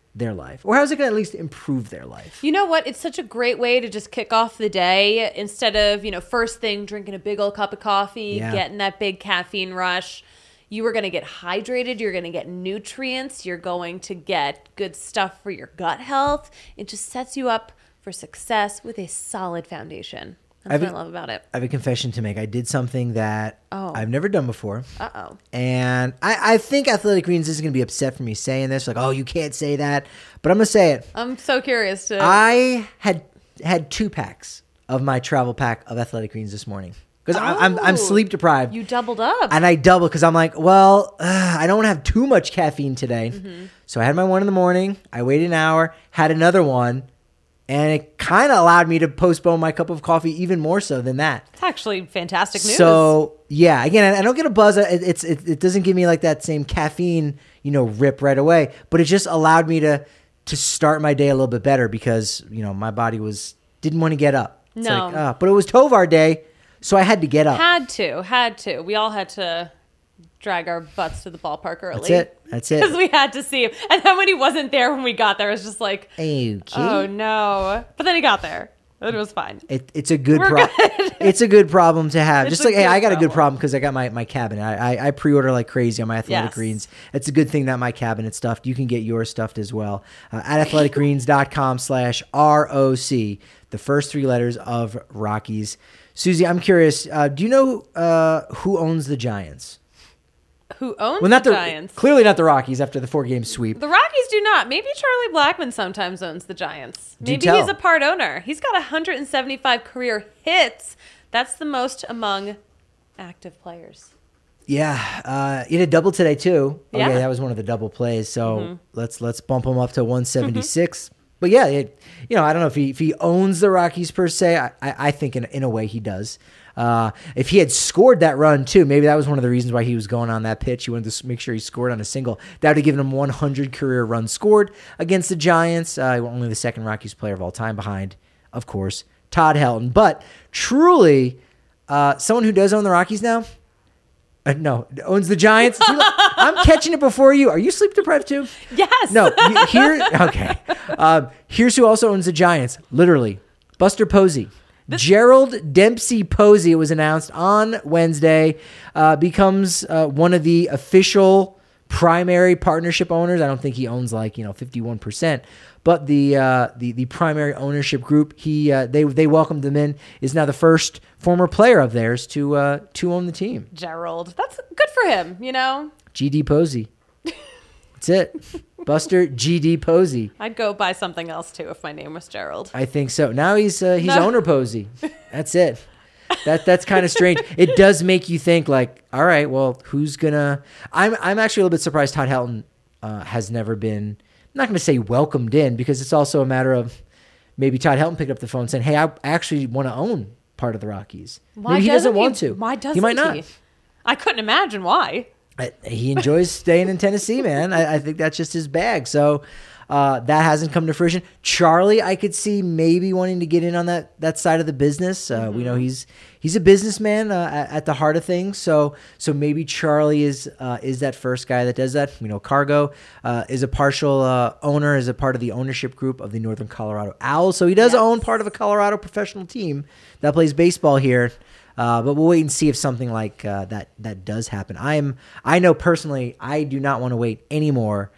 their life? Or how's it going to at least improve their life? You know what? It's such a great way to just kick off the day instead of, you know, first thing drinking a big old cup of coffee, Yeah. getting that big caffeine rush. You are going to get hydrated. You're going to get nutrients. You're going to get good stuff for your gut health. It just sets you up for success with a solid foundation. That's I've what I been- love about it. I have a confession to make. I did something that Oh. I've never done before. Uh-oh. And I, I think Athletic Greens is going to be upset for me saying this. Like, oh, you can't say that. But I'm going to say it. I'm so curious to... I had had two packs of my travel pack of Athletic Greens this morning. Because I'm, I'm Oh. sleep deprived. You doubled up. And I doubled because I'm like, well, uh, I don't want to have too much caffeine today. Mm-hmm. So I had my one in the morning. I waited an hour, had another one. And it kind of allowed me to postpone my cup of coffee even more so than that. It's actually fantastic news. So yeah, again, I I don't get a buzz. It, it's it, it doesn't give me like that same caffeine, you know, rip right away. But it just allowed me to to start my day a little bit better because you know my body was didn't want to get up. It's No. like, uh, but it was Tovar day, so I had to get up. Had to. Had to. We all had to drag our butts to the ballpark early. That's it. That's Because it. we had to see him. And then when he wasn't there when we got there, it was just like, Okay. oh no. But then he got there. And it was fine. It, it's a good, We're pro- good. It's a good problem to have. It's Just a like, hey, good I got a good problem. problem because I got my, my cabinet. I, I, I pre-order like crazy on my Athletic Yes. Greens. It's a good thing that my cabinet's stuffed. You can get yours stuffed as well uh, at athleticgreens.com slash ROC, the first three letters of Rockies. Susie, I'm curious. Uh, do you know uh, who owns the Giants? Who owns Well, not the the Giants? Clearly not the Rockies after the four-game sweep. The Rockies do not. Maybe Charlie Blackmon sometimes owns the Giants. Do Maybe tell. he's a part owner. He's got one hundred seventy-five career hits. That's the most among active players. Yeah, uh, he did a double today too. Okay, Yeah. that was one of the double plays. So let's let's bump him up to one seventy-six. But yeah, it, you know, I don't know if he if he owns the Rockies per se. I, I, I think in in a way he does. Uh, if he had scored that run too, maybe that was one of the reasons why he was going on that pitch. He wanted to s- make sure he scored on a single. That would have given him one hundred career runs scored against the Giants. Uh, only the second Rockies player of all time, behind, of course, Todd Helton. But truly, uh, someone who does own the Rockies now. Uh, no, owns the Giants. See, look, I'm catching it before you. Are you sleep deprived too? Yes. No. you- Here, okay. Um, here's who also owns the Giants. Literally, Buster Posey. Gerald Dempsey Posey, it was announced on Wednesday, uh, becomes uh, one of the official primary partnership owners. I don't think he owns like you know fifty-one percent, but the uh, the the primary ownership group. He uh, they they welcomed him in. Is now the first former player of theirs to uh, to own the team. Gerald. That's good for him, you know? G D Posey. That's it. Buster G D Posey. I'd go buy something else too if my name was Gerald. I think so. Now he's uh, he's No. owner Posey. That's it. That that's kind of strange. It does make you think like, all right, well, who's gonna? I'm I'm actually a little bit surprised Todd Helton uh, has never been. I'm not going to say welcomed in because it's also a matter of maybe Todd Helton picked up the phone saying, "Hey, I actually want to own part of the Rockies." Why maybe he doesn't he, want to. Why doesn't he? Might not. he? I couldn't imagine why. I- He enjoys staying in Tennessee, man. I, I think that's just his bag. So uh, that hasn't come to fruition. Charlie, I could see maybe wanting to get in on that that side of the business. Uh, We know he's he's a businessman uh, at, at the heart of things. So so maybe Charlie is uh, is that first guy that does that. We know Cargo uh, is a partial uh, owner, is a part of the ownership group of the Northern Colorado Owls. So he does Yes. own part of a Colorado professional team that plays baseball here. Uh, but we'll wait and see if something like uh, that that does happen. I'm I know personally I do not want to wait anymore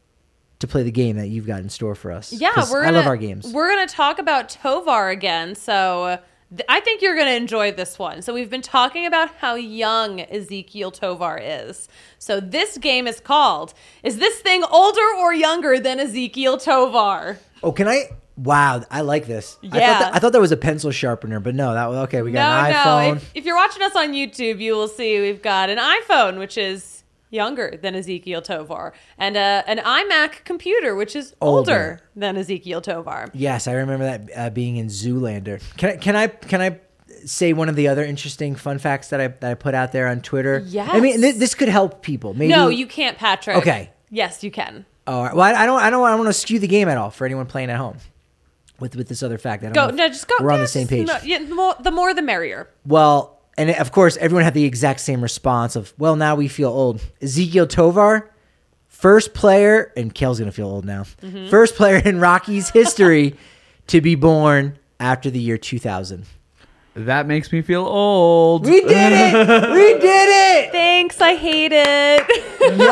to play the game that you've got in store for us. Yeah, 'Cause we're I gonna, love our games. We're going to talk about Tovar again. So th- I think you're going to enjoy this one. So we've been talking about how young Ezekiel Tovar is. So this game is called, is this thing older or younger than Ezekiel Tovar? Oh, can I? Wow, I like this. I Yeah. thought that, I thought that was a pencil sharpener, but no, that was okay. We got No, an no. iPhone. If, if you're watching us on YouTube, you will see we've got an iPhone, which is younger than Ezekiel Tovar, and a, an iMac computer, which is older, Older. than Ezekiel Tovar. Yes, I remember that uh, being in Zoolander. Can I? Can I? Can I? Say one of the other interesting fun facts that I that I put out there on Twitter. Yes. I mean th- this could help people. Maybe. No, you can't, Patrick. Okay. Yes, you can. All right. Well, I, I don't. I don't. I don't want to skew the game at all for anyone playing at home. With with this other fact, I don't Go. know if No, just go. We're on yeah, the same just- page. no, yeah, the, more, the more, the merrier. Well, and of course, everyone had the exact same response of, "Well, now we feel old." Ezekiel Tovar, First player, and Kale's going to feel old now. Mm-hmm. First player in Rockies history to be born after the year two thousand. That makes me feel old. We did it! We did it! Thanks. I hate it.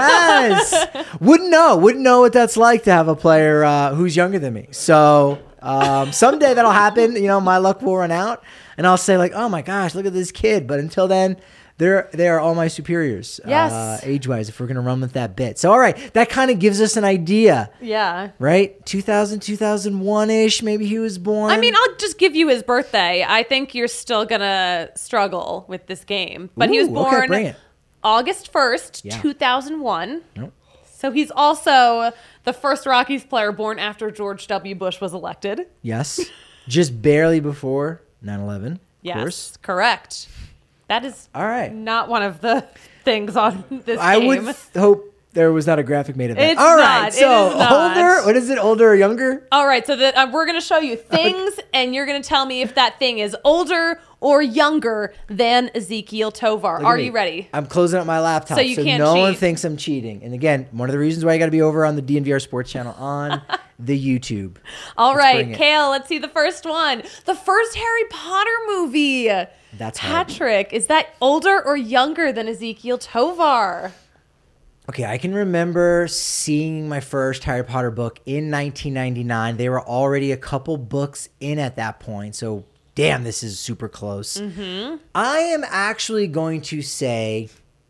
Yes. Wouldn't know. Wouldn't know what that's like to have a player uh, who's younger than me. So um, someday that'll happen. You know, my luck will run out, and I'll say like, "Oh my gosh, look at this kid!" But until then, they're they are all my superiors, Yes. uh, age-wise. If we're gonna run with that bit, so all right, that kind of gives us an idea, Yeah. right? two thousand, two thousand one ish. Maybe he was born. I mean, I'll just give you his birthday. I think you're still gonna struggle with this game, but he was Ooh, okay, born bring it. August first, Yeah. two thousand one. Nope. So he's also the first Rockies player born after George W. Bush was elected. Yes, just barely before nine eleven. Yes, Of course. correct. That is All right. not one of the things on this I game. would th- hope there was not a graphic made of that. It's All right, not. It so is not. older. What is it? Older or younger? All right, so that uh, we're going to show you things, and you're going to tell me if that thing is older or younger than Ezekiel Tovar. Look at Are me. you ready? I'm closing up my laptop, So you can't no one cheat. thinks I'm cheating. And again, one of the reasons why you got to be over on the D N V R Sports channel on the YouTube. All Let's bring right, it. Kale, let's see the first one. The first Harry Potter movie. That's hard. Patrick, is that older or younger than Ezekiel Tovar? Okay, I can remember seeing my first Harry Potter book in nineteen ninety-nine. They were already a couple books in at that point, so damn, this is super close. Mm-hmm. I am actually going to say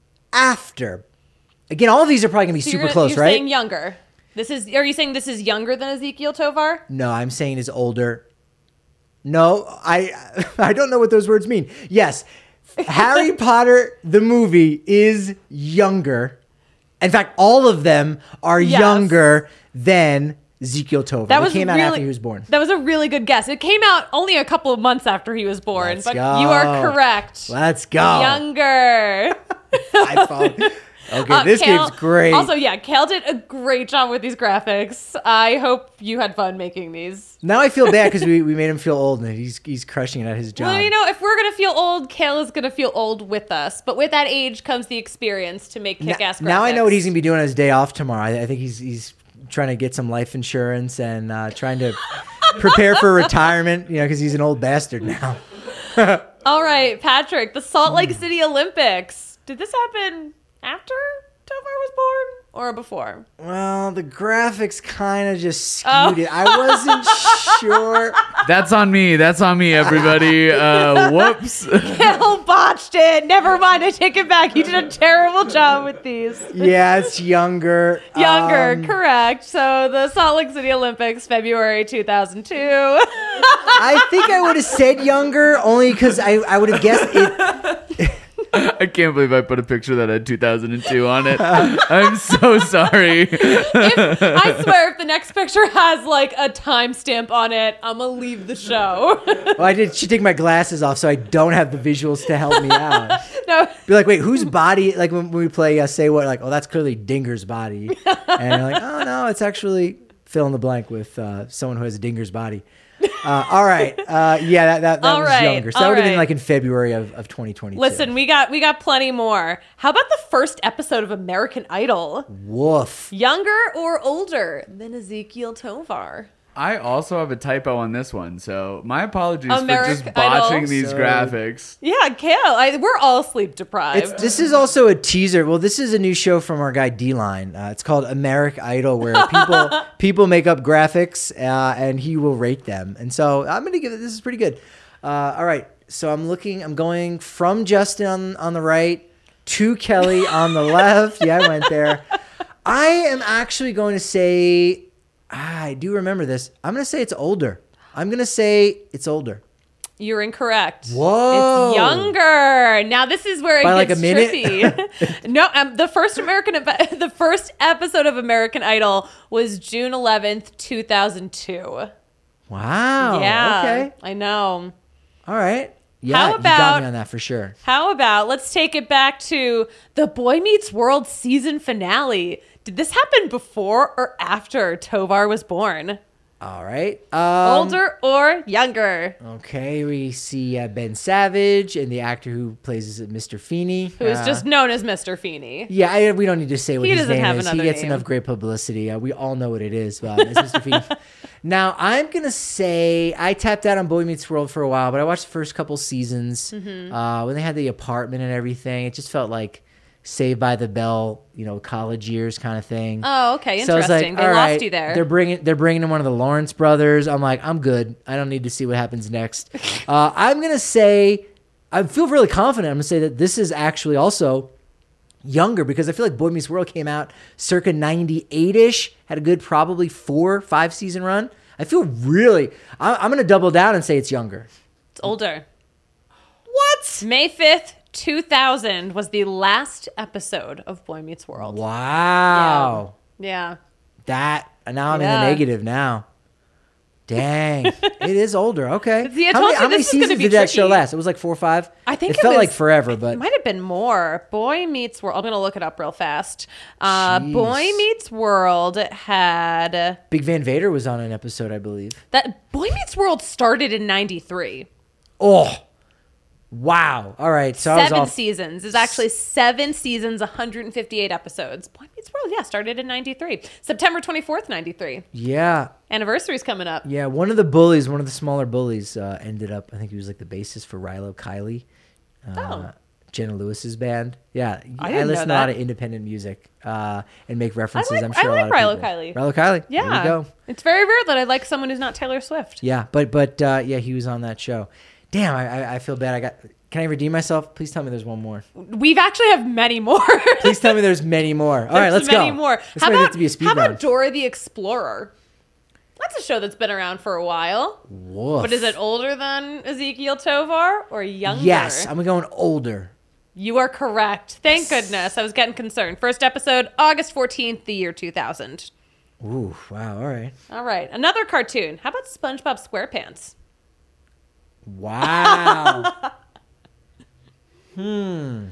after. Again, all of these are probably going to be So super you're, gonna- close, you're right? saying younger. This is. Are you saying this is younger than Ezekiel Tovar? No, I'm saying is older. No, I I don't know what those words mean. Yes, Harry Potter the movie is younger. In fact, all of them are Yes. younger than Ezekiel Tovar. That They was came out really, after he was born. That was a really good guess. It came out only a couple of months after he was born, Let's but go. you are correct. Let's go. Younger. iPhone. Okay, Uh, this Kale- game's great. Also, yeah, Kale did a great job with these graphics. I hope you had fun making these. Now I feel bad because we, we made him feel old and he's he's crushing it at his job. Well, you know, if we're gonna feel old, Kale is gonna feel old with us. But with that age comes the experience to make Now- kick-ass graphics. Now I know what he's gonna be doing on his day off tomorrow. I, I think he's he's trying to get some life insurance and uh, trying to prepare for retirement. You know, because he's an old bastard now. All right, Patrick, the Salt Hmm. Lake City Olympics. Did this happen after Tovar was born or before? Well, the graphics kind of just skewed Oh. it. I wasn't sure. That's on me. That's on me, everybody. Uh, whoops. Kale botched it. Never mind. I take it back. You did a terrible job with these. Yeah, it's younger. Younger, Um, correct. So the Salt Lake City Olympics, February two thousand two. I think I would have said younger only because I, I would have guessed it. I can't believe I put a picture that had two thousand two on it. I'm so sorry. If, I swear, if the next picture has like a timestamp on it, I'm gonna leave the show. Well, I did. She take my glasses off so I don't have the visuals to help me out. No, Be like, wait, whose body? Like when we play uh, Say What, like, oh, that's clearly Dinger's body. And you're like, oh, no, it's actually fill in the blank with uh, someone who has a Dinger's body. Uh, all right. Uh, yeah, that, that, that All was right, younger. So that all would have been right. like in February of, of twenty twenty-two. listen, we got we got plenty more. How about the first episode of American Idol? Woof. Younger or older than Ezekiel Tovar? I also have a typo on this one, so my apologies Americ for just botching Idol. these So- graphics. Yeah, Kale, I, we're all sleep deprived. It's, this is also a teaser. Well, this is a new show from our guy D-Line. Uh, it's called Americ Idol, where people people make up graphics uh, and he will rate them. And so I'm going to give it, this is pretty good. Uh, all right. So I'm looking, I'm going from Justin on, on the right to Kelly on the left. Yeah, I went there. I am actually going to say, ah, I do remember this. I'm going to say it's older. I'm going to say it's older. You're incorrect. Whoa. It's younger. Now this is where it By like gets a minute? trippy. no, um, the first American ep- the first episode of American Idol was June eleventh, two thousand two. Wow. yeah. Okay. I know. All right. Yeah, How you got about- me on that for sure. How about let's take it back to the Boy Meets World season finale. Did this happen before or after Tovar was born? All right. Um, Older or younger? Okay, we see uh, Ben Savage and the actor who plays Mister Feeney. Who is Uh, just known as Mister Feeney. Yeah, I, we don't need to say what He his doesn't name have is. He another gets name. enough great publicity. Uh, we all know what it is, but it's Mister Feeney. Now, I'm going to say I tapped out on Boy Meets World for a while, but I watched the first couple seasons. Mm-hmm. Uh, when they had the apartment and everything, it just felt like Saved by the Bell, you know, college years kind of thing. Oh, okay. So I was Interesting. like, they all lost right, you there. They're bringing they're bringing in one of the Lawrence brothers. I'm like, I'm good. I don't need to see what happens next. uh, I'm gonna say, I feel really confident. I'm gonna say that this is actually also younger because I feel like Boy Meets World came out circa ninety-eight ish, had a good probably four five season run. I feel really. I, I'm gonna double down and say it's younger. It's older. What? May fifth, two thousand was the last episode of Boy Meets World. Wow. Yeah. That now I'm in Yeah. the negative now. Dang, it is older. Okay. See, I how told many, you how many this is gonna seasons be did that show tricky. last? It was like four or five. I think it, it felt was- like forever, but It might have been more. Boy Meets World. I'm going to look it up real fast. Uh, Jeez. Boy Meets World had Big Van Vader was on an episode, I believe. that. Boy Meets World started in ninety-three. Oh, wow. All right, so I was Seven off. seasons. It's actually seven seasons, one hundred fifty-eight episodes. Boy Meets World, yeah, started in ninety-three. September twenty-fourth, ninety-three. Yeah, Anniversary's coming up. yeah. One of the bullies, one of the smaller bullies, uh, ended up. I think he was like the bassist for Rilo Kiley. Uh, Oh. Jenna Lewis's band. Yeah, I didn't listen know to a lot that. of independent music uh, and make references. like- I'm sure I a lot like of Rilo people. Kiley. Rilo Kiley. Yeah. There you go. It's very rare that I like someone who's not Taylor Swift. Yeah, but but uh, yeah, he was on that show. Damn, I, I I feel bad. I got. Can I redeem myself? Please tell me there's one more. We've actually have many more. Please tell me there's many more. All right, There's let's go. many more. This How might about, have to be a speed how about round. Dora the Explorer? That's a show that's been around for a while. Woof. But is it older than Ezekiel Tovar or younger? Yes, I'm going older. You are correct. Thank goodness. I was getting concerned. First episode, August fourteenth, the year two thousand. Ooh, wow. All right. All right. Another cartoon. How about SpongeBob SquarePants? Wow. hmm.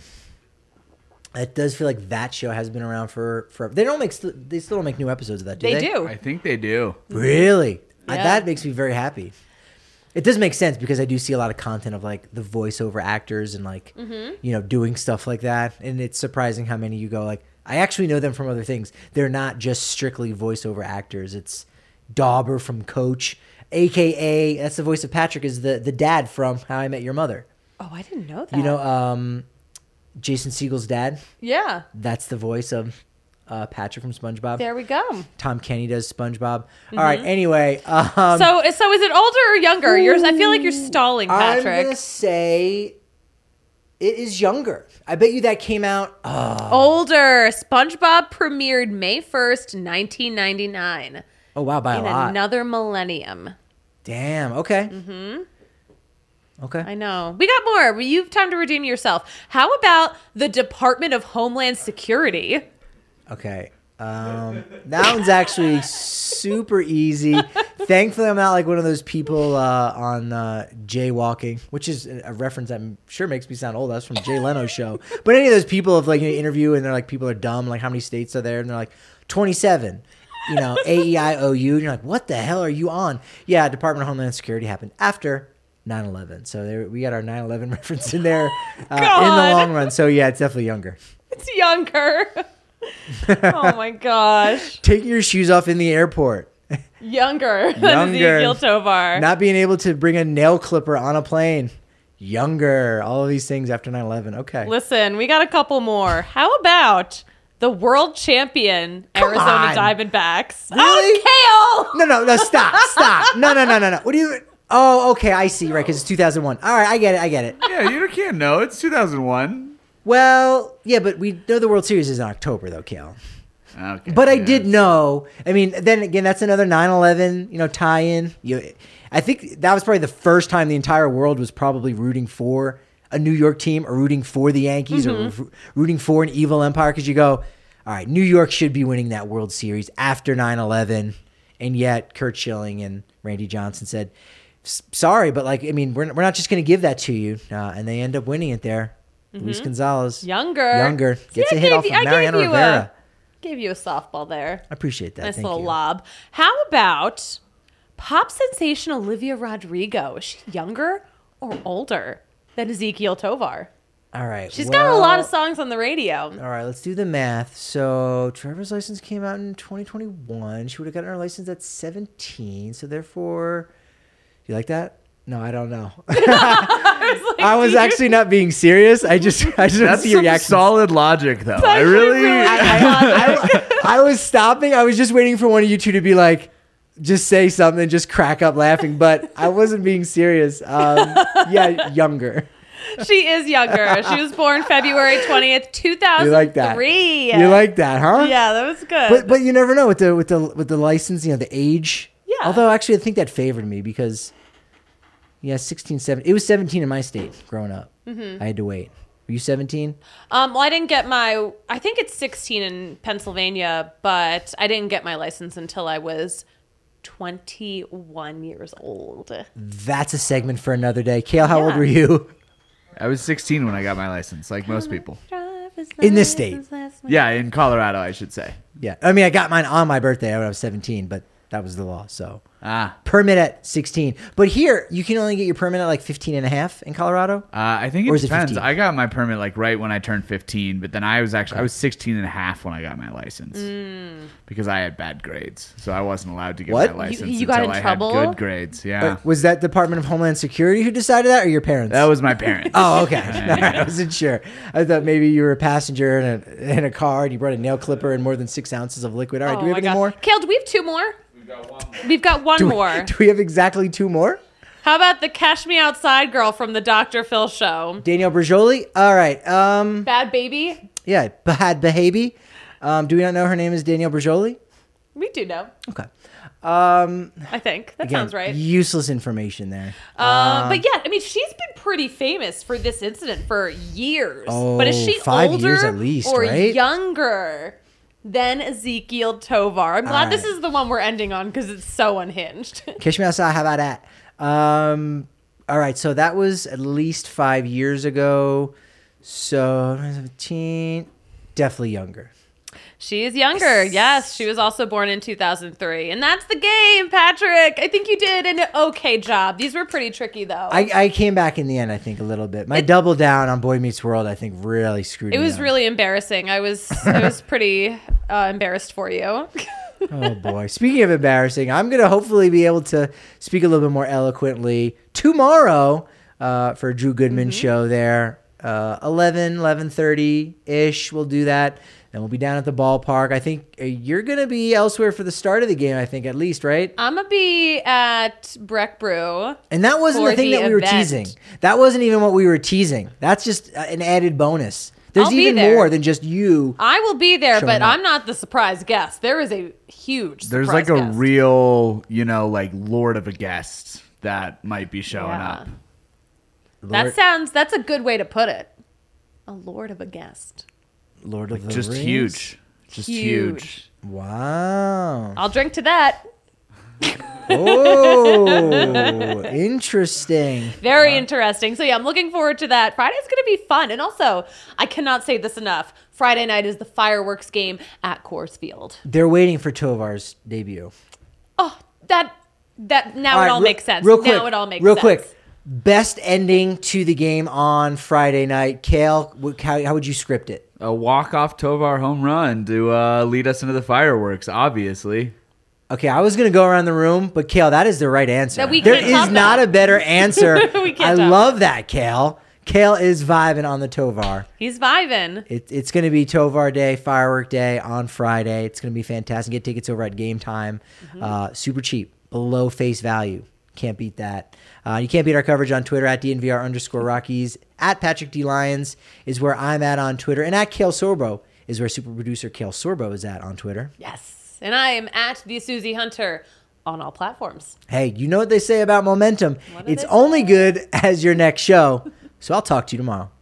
It does feel like that show has been around for forever. They don't make. St- they still don't make new episodes of that, do They they? do. I think they do. Really? Uh, Yeah. that makes me very happy. It does make sense because I do see a lot of content of like the voiceover actors and like Mm-hmm. you know doing stuff like that, and it's surprising how many you go like I actually know them from other things. They're not just strictly voiceover actors. It's Dauber from Coach, aka that's the voice of Patrick, is the the dad from How I Met Your Mother. Oh, I didn't know that. You know, um, Jason Segel's dad. Yeah. That's the voice of uh, Patrick from SpongeBob. There we go. Tom Kenny does SpongeBob. All right. Anyway, um, so, so is it older or younger? Yours. I feel like you're stalling, Patrick. I'm gonna say it is younger. I bet you that came out. Oh, Older. SpongeBob premiered May first, nineteen ninety-nine. oh wow, by a In lot. another millennium. Damn. Okay. Mm-hmm. Okay. I know. We got more. You have time to redeem yourself. How about the Department of Homeland Security? Okay. Um, that one's actually super easy. Thankfully, I'm not like one of those people uh, on uh, jaywalking, which is a reference I'm sure makes me sound old. That's from Jay Leno's show. But any of those people of like you know, interview and they're like people are dumb. Like how many states are there? And they're like twenty-seven. You know, A E I O U. And you're like, what the hell are you on? Yeah, Department of Homeland Security happened after nine eleven. So there, we got our nine eleven reference in there uh, in the God. long run. So yeah, it's definitely younger. It's younger. Oh my gosh. Taking your shoes off in the airport. Younger than Younger. Ezekiel Tovar. Not being able to bring a nail clipper on a plane. Younger. All of these things after nine eleven. Okay. Listen, we got a couple more. How about the world champion Come Arizona on. Diamondbacks? Really? Oh, Kale! No, no, no, stop, stop. No, no, no, no, no. What do you... Oh, okay, I see, right, because it's two thousand one. All right, I get it, I get it. Yeah, you can't know. It's two thousand one. Well, yeah, but we know the World Series is in October, though, Kale. Okay. But I yeah. did know. I mean, then again, that's another nine eleven, you know, tie-in. You, I think that was probably the first time the entire world was probably rooting for a New York team or rooting for the Yankees Mm-hmm. or r- rooting for an evil empire because you go, all right, New York should be winning that World Series after nine eleven. And yet Kurt Schilling and Randy Johnson said, "S- sorry, but like, I mean, we're, we're not just going to give that to you. Uh, and they end up winning it there. Luis Gonzalez. Mm-hmm. Younger. Younger. See, Gets I a hit gave off you- of I gave Mariano you a- Rivera. Gave you a softball there. I appreciate that. Nice Thank little you. lob. How about Pop sensation Olivia Rodrigo. Is she younger or older than Ezekiel Tovar? All right. She's well, got a lot of songs on the radio. All right, let's do the math. So Trevor's license came out in twenty twenty-one. She would have gotten her license at seventeen. So therefore, you like that? No, I don't know. I was, like, I was actually not being serious. I just, I just want to That's see your some reaction. solid logic, though. I actually really. really I, I, I, I was stopping. I was just waiting for one of you two to be like, just say something, just crack up laughing. But I wasn't being serious. Um, yeah, younger. She is younger. She was born February twentieth, two thousand three. You like that? You like that, huh? Yeah, that was good. But but you never know with the with the with the license, you know, the age. Yeah. Although actually, I think that favored me because, yeah, sixteen, seventeen. It was seventeen in my state growing up. Mm-hmm. I had to wait. Were you seventeen? Um, well, I didn't get my, I think it's sixteen in Pennsylvania, but I didn't get my license until I was twenty-one years old. That's a segment for another day. Kale, how Yeah. old were you? I was sixteen when I got my license, like most people. In this state. Yeah, in Colorado, I should say. Yeah. I mean, I got mine on my birthday when I was seventeen, but that was the law. So Ah. permit at sixteen. But here, you can only get your permit at like fifteen and a half in Colorado. Uh, I think it Or is it depends. fifteen? I got my permit like right when I turned fifteen, but then I was actually I was sixteen and a half when I got my license because I had bad grades, so I wasn't allowed to get What? my You- license you got until in I trouble? had good grades. Yeah, Uh, Was that Department of Homeland Security who decided that or your parents? that was my parents. Oh, okay. I wasn't sure. I thought maybe you were a passenger in a, in a car and you brought a nail clipper and more than six ounces of liquid. All right, Oh do we my have any God. more? Kale, do we have two more? We've got one Do we, more. do we have exactly two more? How about the Cash Me Outside girl from the Doctor Phil show? Danielle Berjoli? All right. Um, Bad Baby? yeah, Bahad Bahabi. Um, do we not know her name is Danielle Berjoli? We do know, Okay. Um, I think. That again, sounds right. Useless information there. Uh, but yeah, I mean, she's been pretty famous for this incident for years. Oh, but is she five older years at least, or right? younger than Ezekiel Tovar? I'm glad All this right. is the one we're ending on because it's so unhinged. Catch me outside. How about that? Um, all right. So that was at least five years ago. So seventeen, definitely younger. She is younger. Yes, she was also born in two thousand three. And that's the game, Patrick. I think you did an okay job. These were pretty tricky, though. I, I came back in the end, I think, a little bit. My double down on Boy Meets World, I think, really screwed it me was up. really embarrassing. I was I was pretty uh, embarrassed for you. Oh, boy. Speaking of embarrassing, I'm going to hopefully be able to speak a little bit more eloquently tomorrow uh, for a Drew Goodman Mm-hmm. show there. Uh, eleven, eleven thirty-ish, we'll do that. Then we'll be down at the ballpark. I think uh, you're going to be elsewhere for the start of the game, I think, at least, right? I'm going to be at Breck Brew. And that wasn't for the thing the that we were event. teasing. That wasn't even what we were teasing. That's just uh, an added bonus. There's I'll be even there. more than just you. I will be there, Showing but up. I'm not the surprise guest. There is a huge There's surprise like a guest. real, you know, like lord of a guest that might be showing Yeah. up. That Lord, sounds, that's a good way to put it. A lord of a guest. Lord of the Just Rings? huge. Just huge. Wow. I'll drink to that. Oh, interesting. Very interesting. So yeah, I'm looking forward to that. Friday's going to be fun. And also, I cannot say this enough. Friday night is the fireworks game at Coors Field. They're waiting for Tovar's debut. Oh, that, that, now All it right, all re- makes sense. Real quick, now it all makes real sense. quick. Best ending to the game on Friday night. Kale, wh- how, how would you script it? A walk-off Tovar home run to uh, lead us into the fireworks, obviously. Okay, I was gonna go around the room, but Kale, that is the right answer. That we There can't is top not that. a better answer. We can't I top love that, Kale. Kale is vibing on the Tovar. He's vibing. It, it's going to be Tovar Day, Firework Day on Friday. It's going to be fantastic. Get tickets over at Game Time. Mm-hmm. Uh, super cheap, below face value. Can't beat that. Uh, you can't beat our coverage on Twitter at DNVR underscore Rockies. At Patrick D. Lyons is where I'm at on Twitter. And at Kale Sorbo is where super producer Kale Sorbo is at on Twitter. Yes. And I am at the Susie Hunter on all platforms. Hey, you know what they say about momentum. What do It's they only say? good as your next show. So I'll talk to you tomorrow.